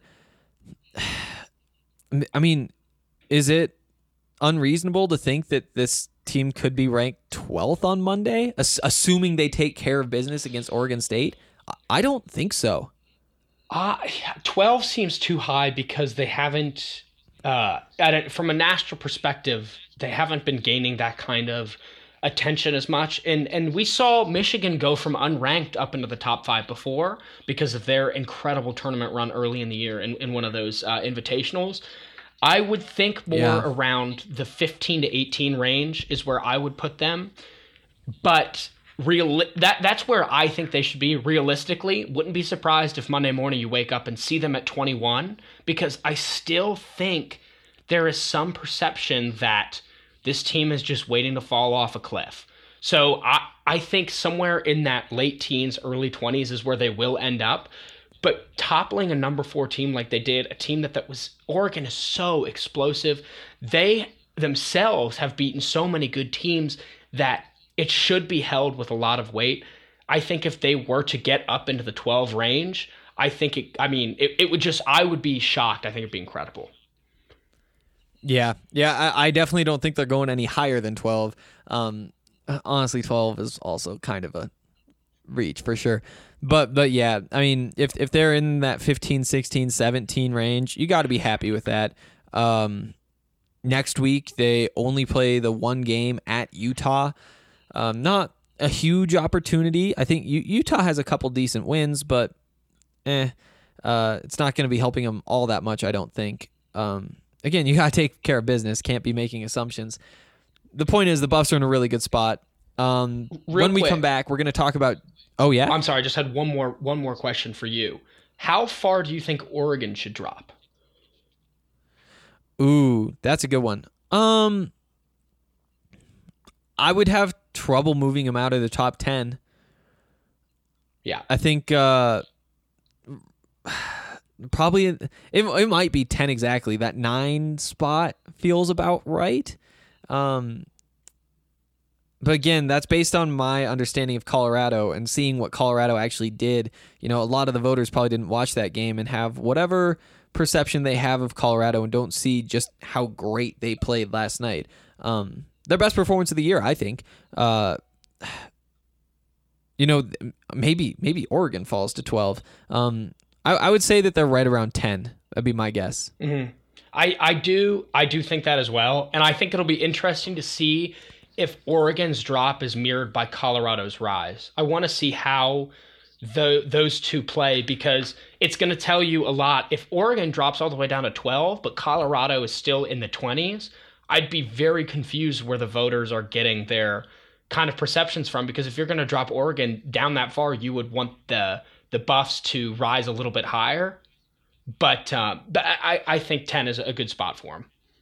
I mean, is it unreasonable to think that this team could be ranked twelfth on Monday, ass- assuming they take care of business against Oregon State? I don't think so. Uh, twelve seems too high because they haven't, uh, at a, from a national perspective, they haven't been gaining that kind of attention as much. And and we saw Michigan go from unranked up into the top five before because of their incredible tournament run early in the year in, in one of those uh, invitationals. I would think more Yeah. around the fifteen to eighteen range is where I would put them. But real that that's where I think they should be realistically. Wouldn't be surprised if Monday morning you wake up and see them at twenty-one, because I still think there is some perception that this team is just waiting to fall off a cliff. So I, I think somewhere in that late teens, early twenties is where they will end up. But toppling a number four team like they did, a team that, that was, Oregon is so explosive. They themselves have beaten so many good teams that it should be held with a lot of weight. I think if they were to get up into the twelve range, I think it, I mean, it, it would just, I would be shocked. I think it'd be incredible. Yeah, yeah, I, I definitely don't think they're going any higher than twelve. Um, honestly, twelve is also kind of a reach for sure. But but yeah, I mean, if if they're in that fifteen, sixteen, seventeen range, you got to be happy with that. Um, next week, they only play the one game at Utah. Um, not a huge opportunity. I think U- Utah has a couple decent wins, but eh, uh, it's not going to be helping them all that much, I don't think. Um, again, you got to take care of business. Can't be making assumptions. The point is the Buffs are in a really good spot. Um, when we quick. come back, we're going to talk about... Oh, yeah? I'm sorry, I just had one more one more question for you. How far do you think Oregon should drop? Ooh, that's a good one. Um, I would have trouble moving them out of the top ten. Yeah. I think uh, probably it, it might be ten exactly. That nine spot feels about right. Um, but again, that's based on my understanding of Colorado and seeing what Colorado actually did. You know, a lot of the voters probably didn't watch that game and have whatever perception they have of Colorado and don't see just how great they played last night. Um, their best performance of the year, I think. Uh, you know, maybe maybe Oregon falls to twelve. Um, I, I would say that they're right around ten. That'd be my guess. Mm-hmm. I, I do I do think that as well, and I think it'll be interesting to see if Oregon's drop is mirrored by Colorado's rise. I want to see how the those two play, because it's going to tell you a lot. If Oregon drops all the way down to twelve, but Colorado is still in the twenties, I'd be very confused where the voters are getting their kind of perceptions from, because if you're going to drop Oregon down that far, you would want the the Buffs to rise a little bit higher. But, uh, but I, I think ten is a good spot for him.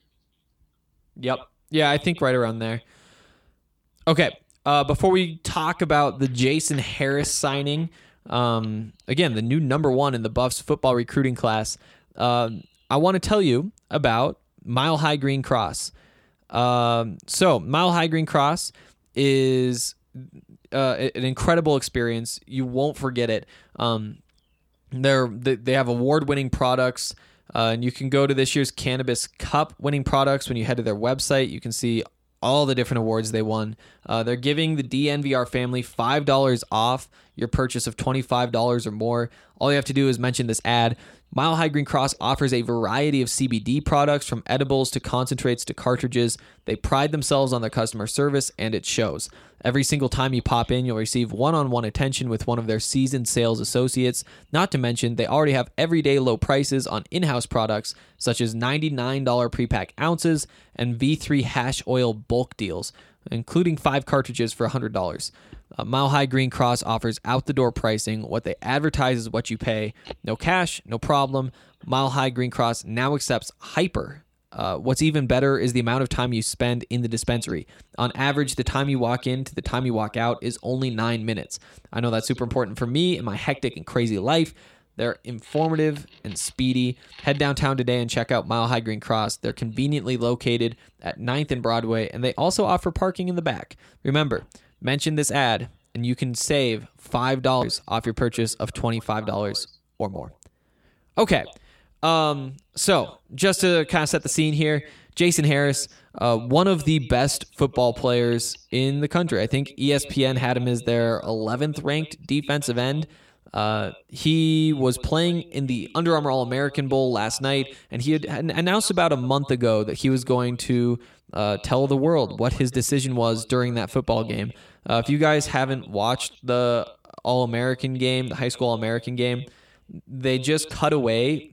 Yep. Yeah, I think right around there. Okay. Uh, before we talk about the Jason Harris signing, um, again, the new number one in the Buffs football recruiting class, uh, I want to tell you about Mile High Green Cross. Um, so, Mile High Green Cross is uh, an incredible experience. You won't forget it. Um, they're, they have award-winning products, uh, and you can go to this year's Cannabis Cup winning products. When you head to their website, you can see all the different awards they won. Uh, they're giving the D N V R family five dollars off your purchase of twenty-five dollars or more. All you have to do is mention this ad. Mile High Green Cross offers a variety of C B D products, from edibles to concentrates to cartridges. They pride themselves on their customer service, and it shows. Every single time you pop in, you'll receive one-on-one attention with one of their seasoned sales associates. Not to mention, they already have everyday low prices on in-house products, such as ninety-nine dollars pre-pack ounces and V three hash oil bulk deals, including five cartridges for one hundred dollars. Uh, Mile High Green Cross offers out-the-door pricing. What they advertise is what you pay. No cash, no problem. Mile High Green Cross now accepts Hyper. Uh, what's even better is the amount of time you spend in the dispensary. On average, the time you walk in to the time you walk out is only nine minutes. I know that's super important for me in my hectic and crazy life. They're informative and speedy. Head downtown today and check out Mile High Green Cross. They're conveniently located at ninth and Broadway, and they also offer parking in the back. Remember, mention this ad, and you can save five dollars off your purchase of twenty-five dollars or more. Okay. Um, so just to kind of set the scene here, Jason Harris, uh, one of the best football players in the country. I think E S P N had him as their eleventh ranked defensive end. Uh, he was playing in the Under Armour All-American Bowl last night, and he had announced about a month ago that he was going to uh, tell the world what his decision was during that football game. Uh, if you guys haven't watched the All-American game, the high school All-American game, they just cut away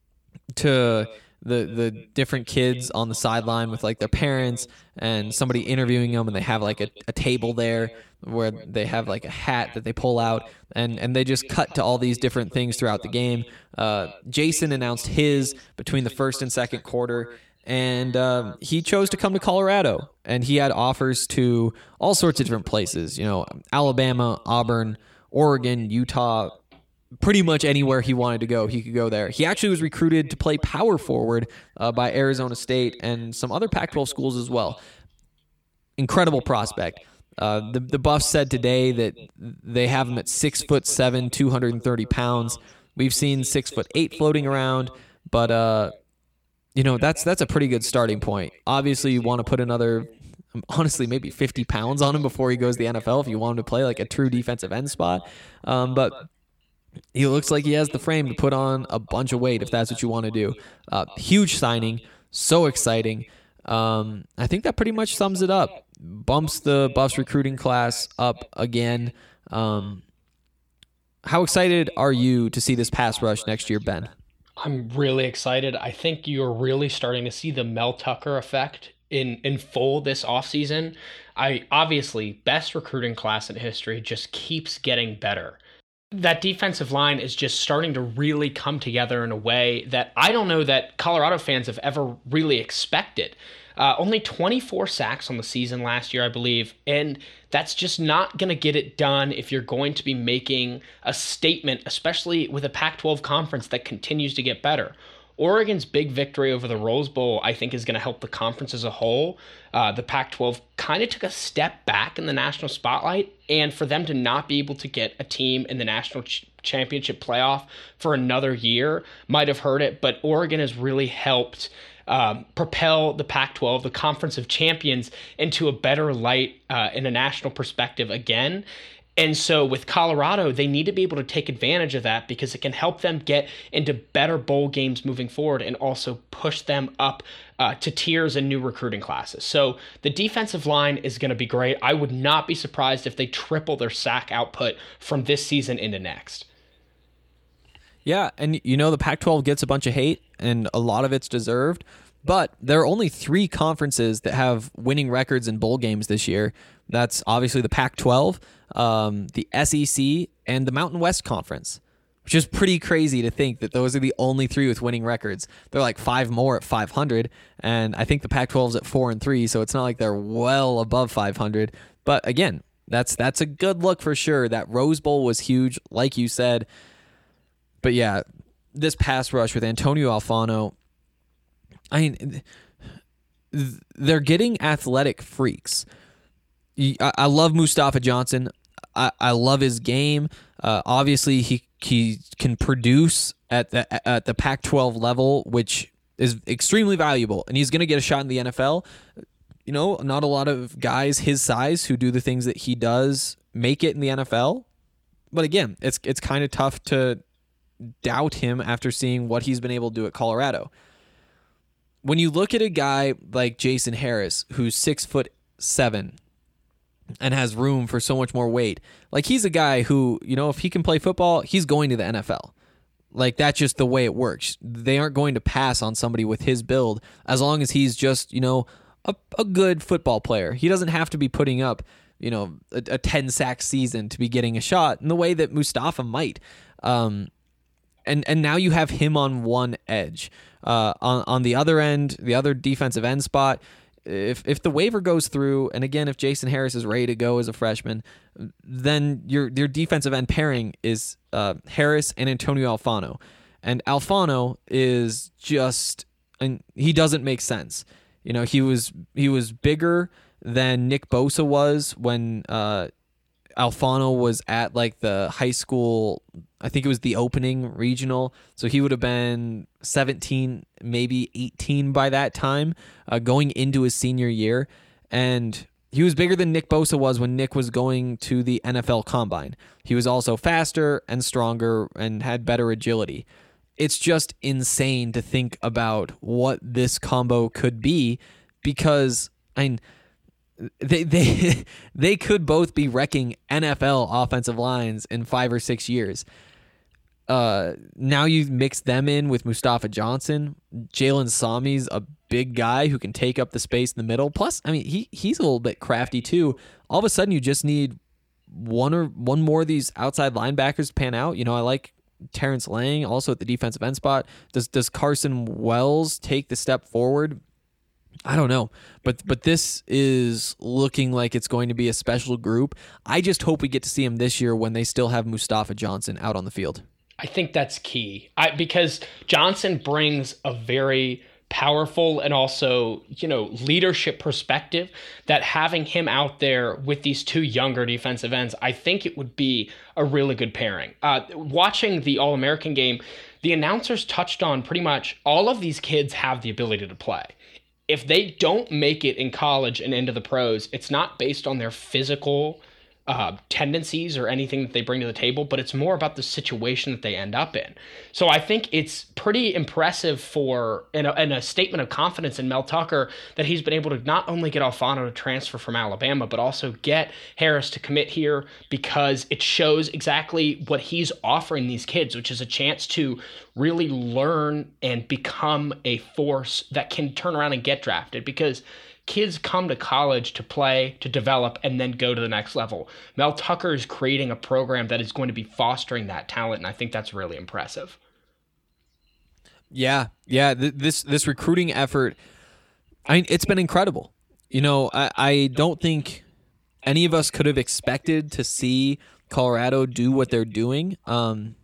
to the the different kids on the sideline with like their parents and somebody interviewing them, and they have like a, a table there where they have like a hat that they pull out, and and they just cut to all these different things throughout the game. Uh, Jason announced his between the first and second quarter, and um, he chose to come to Colorado, and he had offers to all sorts of different places, you know, Alabama, Auburn, Oregon, Utah. Pretty much anywhere he wanted to go, he could go there. He actually was recruited to play power forward uh, by Arizona State and some other Pac twelve schools as well. Incredible prospect. Uh, the the Buffs said today that they have him at six foot seven, two hundred thirty pounds. We've seen six foot eight floating around, but uh, you know that's that's a pretty good starting point. Obviously, you want to put another, honestly, maybe fifty pounds on him before he goes to the N F L if you want him to play like a true defensive end spot. Um, but he looks like he has the frame to put on a bunch of weight if that's what you want to do. Uh, huge signing, so exciting. Um, I think that pretty much sums it up. Bumps the Buffs recruiting class up again. Um, how excited are you to see this pass rush next year, Ben? I'm really excited. I think you're really starting to see the Mel Tucker effect in, in full this offseason. I obviously, best recruiting class in history, just keeps getting better. That defensive line is just starting to really come together in a way that I don't know that Colorado fans have ever really expected. Uh, only twenty-four sacks on the season last year, I believe, and that's just not going to get it done if you're going to be making a statement, especially with a Pac twelve conference that continues to get better. Oregon's big victory over the Rose Bowl, I think, is going to help the conference as a whole. Uh, the Pac twelve kind of took a step back in the national spotlight, and for them to not be able to get a team in the national ch- championship playoff for another year might have hurt it, but Oregon has really helped um, propel the Pac twelve, the Conference of Champions, into a better light uh, in a national perspective again. And so with Colorado, they need to be able to take advantage of that because it can help them get into better bowl games moving forward and also push them up uh, to tiers and new recruiting classes. So the defensive line is going to be great. I would not be surprised if they triple their sack output from this season into next. Yeah, and you know the Pac twelve gets a bunch of hate, and a lot of it's deserved. But there are only three conferences that have winning records in bowl games this year. That's obviously the Pac twelve, um, the S E C, and the Mountain West Conference, which is pretty crazy to think that those are the only three with winning records. They're like five more at five hundred, and I think the Pac twelve is at four and three, so it's not like they're well above five hundred. But again, that's that's a good look for sure. That Rose Bowl was huge, like you said. But yeah, this pass rush with Antonio Alfano, I mean, they're getting athletic freaks. I love Mustafa Johnson. I, I love his game. Uh, obviously, he he can produce at the at the Pac twelve level, which is extremely valuable, and he's going to get a shot in the N F L. You know, not a lot of guys his size who do the things that he does make it in the N F L. But again, it's it's kind of tough to doubt him after seeing what he's been able to do at Colorado. When you look at a guy like Jason Harris, who's six foot seven and has room for so much more weight, like he's a guy who, you know, if he can play football, he's going to the N F L. Like that's just the way it works. They aren't going to pass on somebody with his build as long as he's just, you know, a, a good football player. He doesn't have to be putting up, you know, a, a ten sack season to be getting a shot in the way that Mustafa might. Um, And and now you have him on one edge. Uh, on on the other end, the other defensive end spot, if if the waiver goes through, and again, if Jason Harris is ready to go as a freshman, then your your defensive end pairing is uh, Harris and Antonio Alfano. And Alfano is just, and he doesn't make sense. You know, he was he was bigger than Nick Bosa was when uh, Alfano was at like the high school, I think it was the opening regional, so he would have been seventeen, maybe eighteen by that time, uh, going into his senior year, and he was bigger than Nick Bosa was when Nick was going to the N F L Combine. He was also faster and stronger and had better agility. It's just insane to think about what this combo could be, because I mean, they they they could both be wrecking N F L offensive lines in five or six years. Uh, now you mix them in with Mustafa Johnson. Jalen Sami's a big guy who can take up the space in the middle. Plus, I mean, he he's a little bit crafty too. All of a sudden, you just need one or one more of these outside linebackers to pan out. You know, I like Terrence Lang also at the defensive end spot. Does does Carson Wells take the step forward? I don't know, but but this is looking like it's going to be a special group. I just hope we get to see him this year when they still have Mustafa Johnson out on the field. I think that's key, I, because Johnson brings a very powerful and also, you know, leadership perspective that having him out there with these two younger defensive ends, I think it would be a really good pairing. Uh, watching the All-American game, the announcers touched on pretty much all of these kids have the ability to play. If they don't make it in college and into the pros, it's not based on their physical uh, tendencies or anything that they bring to the table, but it's more about the situation that they end up in. So I think it's pretty impressive for, and a, and a statement of confidence in Mel Tucker, that he's been able to not only get Alfano to transfer from Alabama, but also get Harris to commit here, because it shows exactly what he's offering these kids, which is a chance to really learn and become a force that can turn around and get drafted, because kids come to college to play, to develop, and then go to the next level. Mel Tucker is creating a program that is going to be fostering that talent, and I think that's really impressive. Yeah, yeah. Th- this this recruiting effort, I mean, it's been incredible. You know, I, I don't think any of us could have expected to see Colorado do what they're doing, um,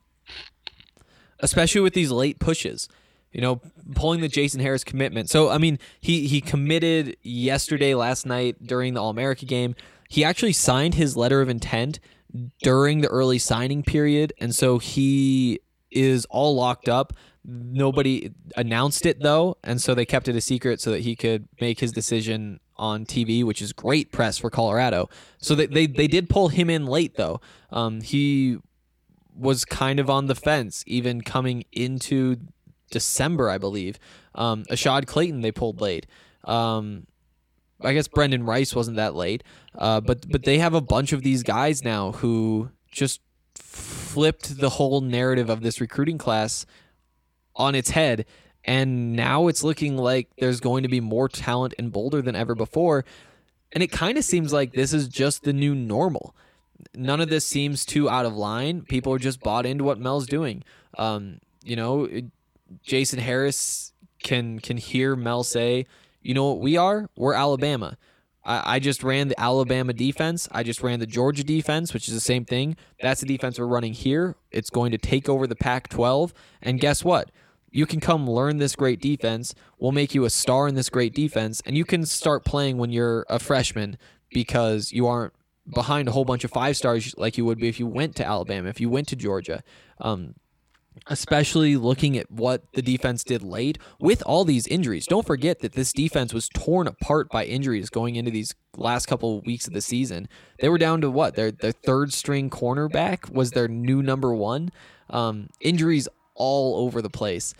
especially with these late pushes. You know, pulling the Jason Harris commitment. So, I mean, he, he committed yesterday, last night, during the All-America game. He actually signed his letter of intent during the early signing period, and so he is all locked up. Nobody announced it, though, and so they kept it a secret so that he could make his decision on T V, which is great press for Colorado. So they, they, they did pull him in late, though. Um, he was kind of on the fence, even coming into December, I believe. Um, Ashad Clayton they pulled late. Um, I guess Brendan Rice wasn't that late, uh, but but they have a bunch of these guys now who just flipped the whole narrative of this recruiting class on its head, and now it's looking like there's going to be more talent in Boulder than ever before, and it kind of seems like this is just the new normal. None of this seems too out of line. People are just bought into what Mel's doing. Um, you know, it, Jason Harris can can hear Mel say, you know what we are? We're Alabama. I, I just ran the Alabama defense. I just ran the Georgia defense, which is the same thing. That's the defense we're running here. It's going to take over the Pac twelve. And guess what? You can come learn this great defense. We'll make you a star in this great defense. And you can start playing when you're a freshman, because you aren't behind a whole bunch of five stars like you would be if you went to Alabama, if you went to Georgia. Um, especially looking at what the defense did late with all these injuries. Don't forget that this defense was torn apart by injuries going into these last couple of weeks of the season. They were down to what? Their their third string cornerback was their new number one. Um, injuries all over the place.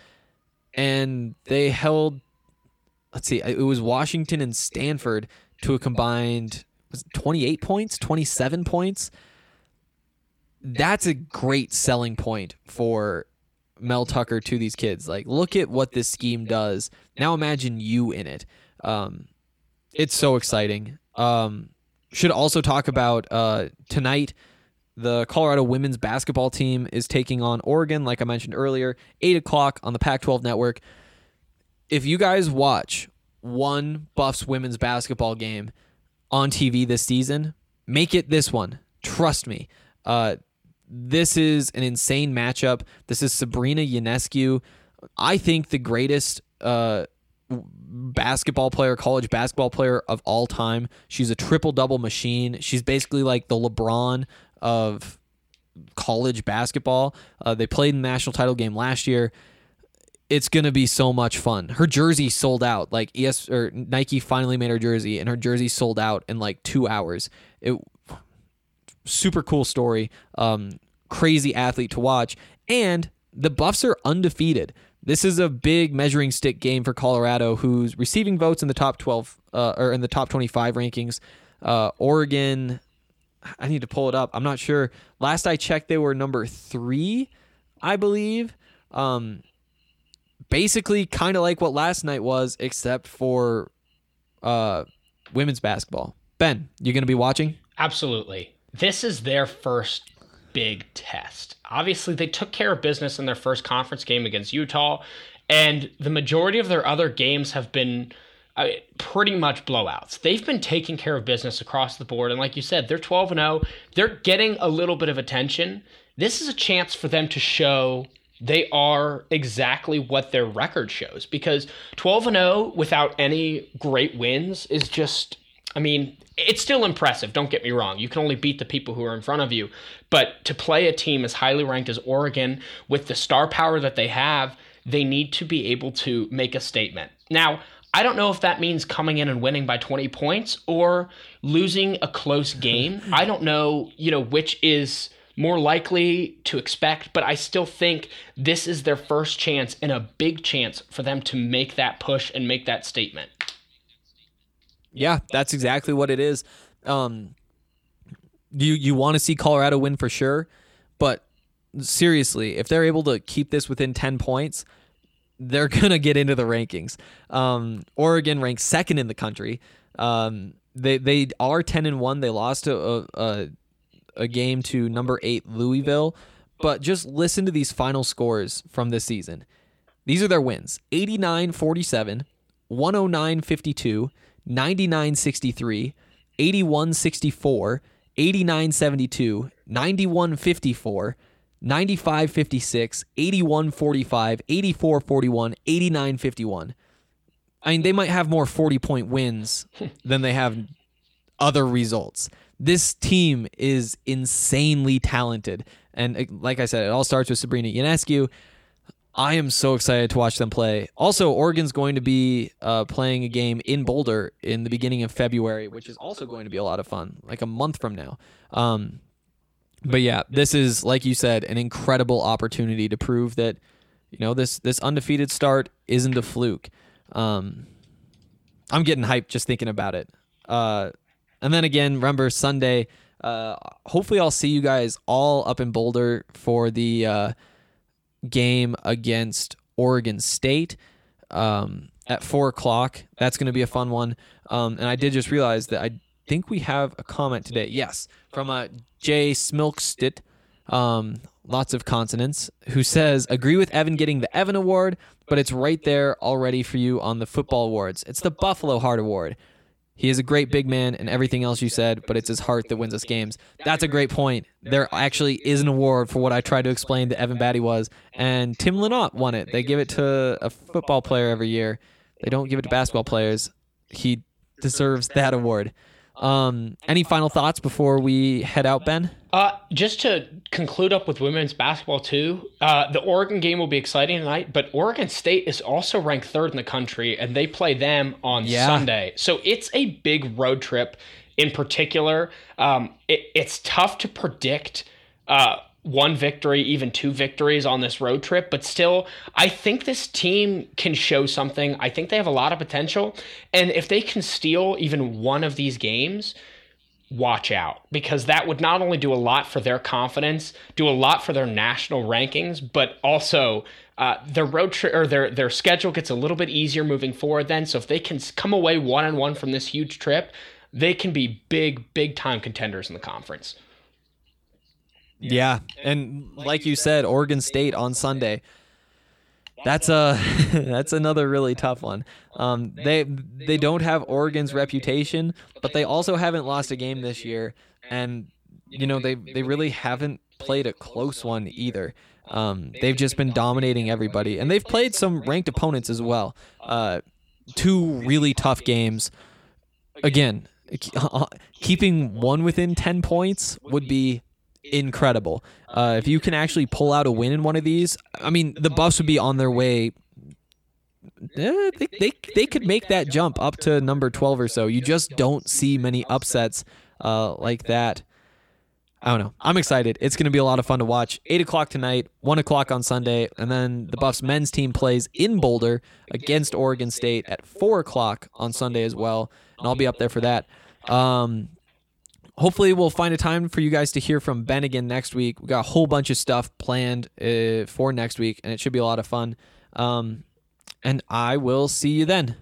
And they held, let's see, it was Washington and Stanford to a combined was it twenty-eight points, twenty-seven points. That's a great selling point for Mel Tucker to these kids. Like, look at what this scheme does. Now imagine you in it. Um, it's so exciting. Um, should also talk about uh, tonight, the Colorado women's basketball team is taking on Oregon, like I mentioned earlier, eight o'clock on the Pac twelve network. If you guys watch one Buffs women's basketball game on T V this season, make it this one. Trust me. Uh, This is an insane matchup. This is Sabrina Ionescu. I think the greatest uh, basketball player, college basketball player of all time. She's a triple-double machine. She's basically like the LeBron of college basketball. Uh, they played in the national title game last year. It's going to be so much fun. Her jersey sold out. Like E S or Nike finally made her jersey, and her jersey sold out in like two hours. It super cool story. Um, crazy athlete to watch. And the Buffs are undefeated. This is a big measuring stick game for Colorado, who's receiving votes in the top twelve uh, or in the top twenty-five rankings. Uh, Oregon, I need to pull it up. I'm not sure. Last I checked, they were number three, I believe. Um, basically, kind of like what last night was, except for uh, women's basketball. Ben, you going to be watching? Absolutely. This is their first big test. Obviously, they took care of business in their first conference game against Utah, and the majority of their other games have been uh, pretty much blowouts. They've been taking care of business across the board, and like you said, they're twelve and oh. They're getting a little bit of attention. This is a chance for them to show they are exactly what their record shows, because twelve and oh without any great wins is just, I mean, it's still impressive. Don't get me wrong. You can only beat the people who are in front of you. But to play a team as highly ranked as Oregon with the star power that they have, they need to be able to make a statement. Now, I don't know if that means coming in and winning by twenty points or losing a close game. I don't know, you know, which is more likely to expect, but I still think this is their first chance and a big chance for them to make that push and make that statement. Yeah, that's exactly what it is. Um, you you want to see Colorado win for sure, but seriously, if they're able to keep this within ten points, they're going to get into the rankings. Um, Oregon ranks second in the country. Um, they they are ten and one. They lost a, a, a game to number eight Louisville, but just listen to these final scores from this season. These are their wins: eighty-nine forty-seven, one oh nine fifty-two, ninety-nine sixty-three, eighty-one sixty-four, eighty-nine seventy-two, ninety-one fifty-four, ninety-five fifty-six, eighty-one forty-five, eighty-four forty-one, eighty-nine fifty-one. I mean, they might have more forty-point wins than they have other results. This team is insanely talented. And like I said, it all starts with Sabrina Ionescu. I am so excited to watch them play. Also, Oregon's going to be uh, playing a game in Boulder in the beginning of February, which is also going to be a lot of fun, like a month from now. Um, but yeah, this is, like you said, an incredible opportunity to prove that, you know, this this undefeated start isn't a fluke. Um, I'm getting hyped just thinking about it. Uh, and then again, remember Sunday. Uh, hopefully, I'll see you guys all up in Boulder for the uh, game against Oregon State um, at four o'clock. That's going to be a fun one. Um, and I did just realize that I think we have a comment today. Yes, from uh, Jay Smilkstit, um, lots of consonants, who says, agree with Evan getting the Evan Award, but it's right there already for you on the football awards. It's the Buffalo Heart Award. He is a great big man and everything else you said, but it's his heart that wins us games. That's a great point. There actually is an award for what I tried to explain to Evan Batty was, and Tim Lynott won it. They give it to a football player every year. They don't give it to basketball players. He deserves that award. Um, any final thoughts before we head out, Ben? Uh, just to conclude up with women's basketball too, uh, the Oregon game will be exciting tonight, but Oregon State is also ranked third in the country, and they play them on yeah. Sunday. So it's a big road trip in particular. Um, it, it's tough to predict uh, one victory, even two victories on this road trip, but still, I think this team can show something. I think they have a lot of potential, and if they can steal even one of these games, watch out, because that would not only do a lot for their confidence, do a lot for their national rankings, but also uh, their road trip or their their schedule gets a little bit easier moving forward then. So if they can come away one and one from this huge trip, they can be big, big time contenders in the conference. Yeah, and like you said, Oregon State on Sunday. That's a that's another really tough one. Um, they they don't have Oregon's reputation, but they also haven't lost a game this year, and you know they they really haven't played a close one either. Um, they've just been dominating everybody, and they've played some ranked opponents as well. Uh, two really tough games. Again, keeping one within ten points would be incredible. Uh, if you can actually pull out a win in one of these, I mean, the Buffs would be on their way. Eh, they, they, they could make that jump up to number twelve or so. You just don't see many upsets uh, like that. I don't know. I'm excited. It's going to be a lot of fun to watch. eight o'clock tonight, one o'clock on Sunday, and then the Buffs men's team plays in Boulder against Oregon State at four o'clock on Sunday as well, and I'll be up there for that. Um, hopefully we'll find a time for you guys to hear from Ben again next week. We got a whole bunch of stuff planned uh, for next week, and it should be a lot of fun. Um, and I will see you then.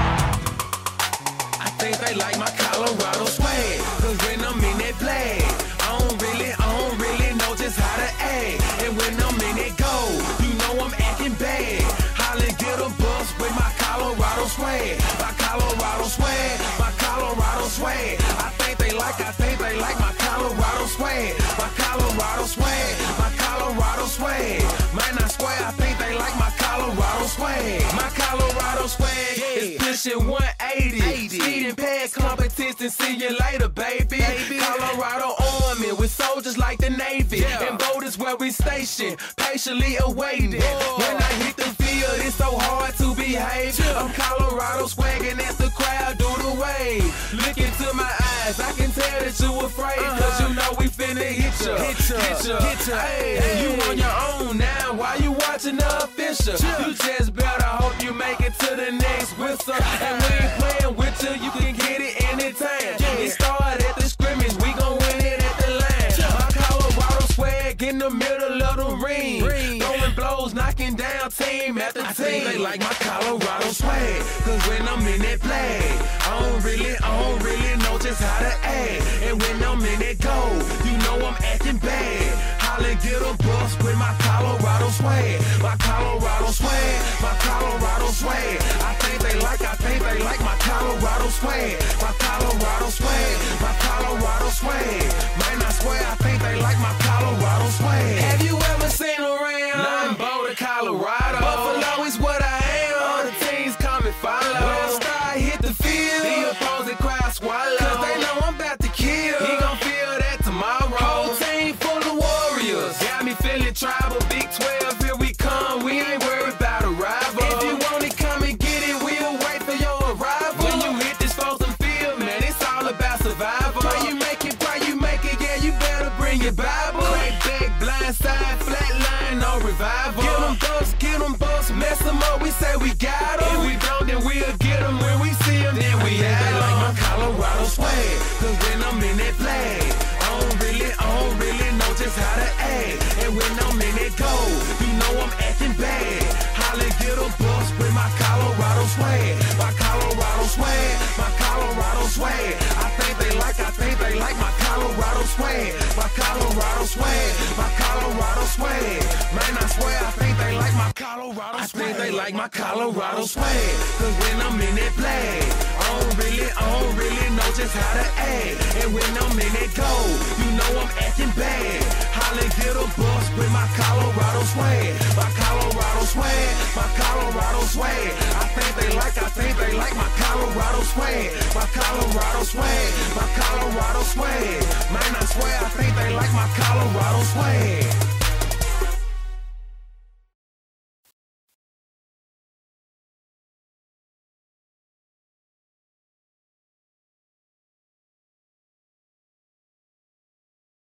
I think they like my Colorado swag, cause when I'm in that play, I don't really, I don't really know just how to act. And when I'm in that go, you know I'm acting bad. Holly get a bus with my Colorado swag, my Colorado swag, my Colorado swag. I think they like, I think they like my Colorado swag, my Colorado swag, my Colorado swag. Man, I swear I think they like my Colorado swag, my Colorado swag is pushing one eighty. Speeding past competition, see you later, baby. baby. Colorado Army with soldiers like the Navy, yeah. And Boulder's where we station, patiently awaiting. Whoa. When I hit the field, it's so hard to behave. Yeah. I'm Colorado swagging as the crowd do the wave. Look into my eyes, I can tell that you afraid, uh-huh. Cause you know we finna hit ya, hit ya, hit ya, hit ya. Hey, hey. You on your own now, why you watching the official? Yeah. You just better hope you make it to the next whistle. And we ain't playing with you, you can get it anytime. Yeah. It started at the scrimmage, we gon' win it at the line. Yeah. My Colorado swag in the middle of the ring, ring. Throwing blows, knocking down team after team. I think they like my Colorado swag, cause when I'm in that play, I don't really, I don't really know just how to act. And when I'm in that go, you know I'm acting bad. Holly get a bus with my Colorado swag, my Colorado swag, my Colorado swag. I think they like, I think they like my Colorado swag, my Colorado swag, my Colorado swag. Man, I swear I think they like my Colorado swag. Have you ever seen around? Nah, I'm Boulder, Colorado. Buffalo is what I am. All the teams come and follow. When I start hit the field, the opposing crowd swallow. Cause they know I'm about to kill. He gon' feel that tomorrow. Whole team full of warriors. Got me feeling tribal. Big twelve, here we come. We ain't worried about a rival. If you want it, come and get it. We'll wait for your arrival. When you hit this frozen field, man, it's all about survival. Pray you make it, pray you make it. Yeah, you better bring your Bible. Crack back, blind side, flat line, no revival. Get them bucks, get them bucks, mess them up. We say we got them. If we don't, then we'll get them. When we see them, then we have them. Like my Colorado swag, cause when I'm in that play, I don't really, I don't really know just how to act. And when I'm in that go, you know I'm acting bad. Holly get a bus with my Colorado swag, my Colorado swag, my Colorado swag. I think they like, I think they like my Colorado swag, my Colorado swag, my Colorado swag. Man, I swear I think they like my Colorado swag. I think they like my Colorado swag, cause when I'm in that play, I don't really, I don't really know just how to act. And when I'm in that go, you know I'm acting bad. Holly get a bus with my Colorado swag, my Colorado swag, my Colorado swag. I think they like, I think they like my Colorado swag, my Colorado swag, my Colorado swag. Man, I swear I think they like my Colorado swag.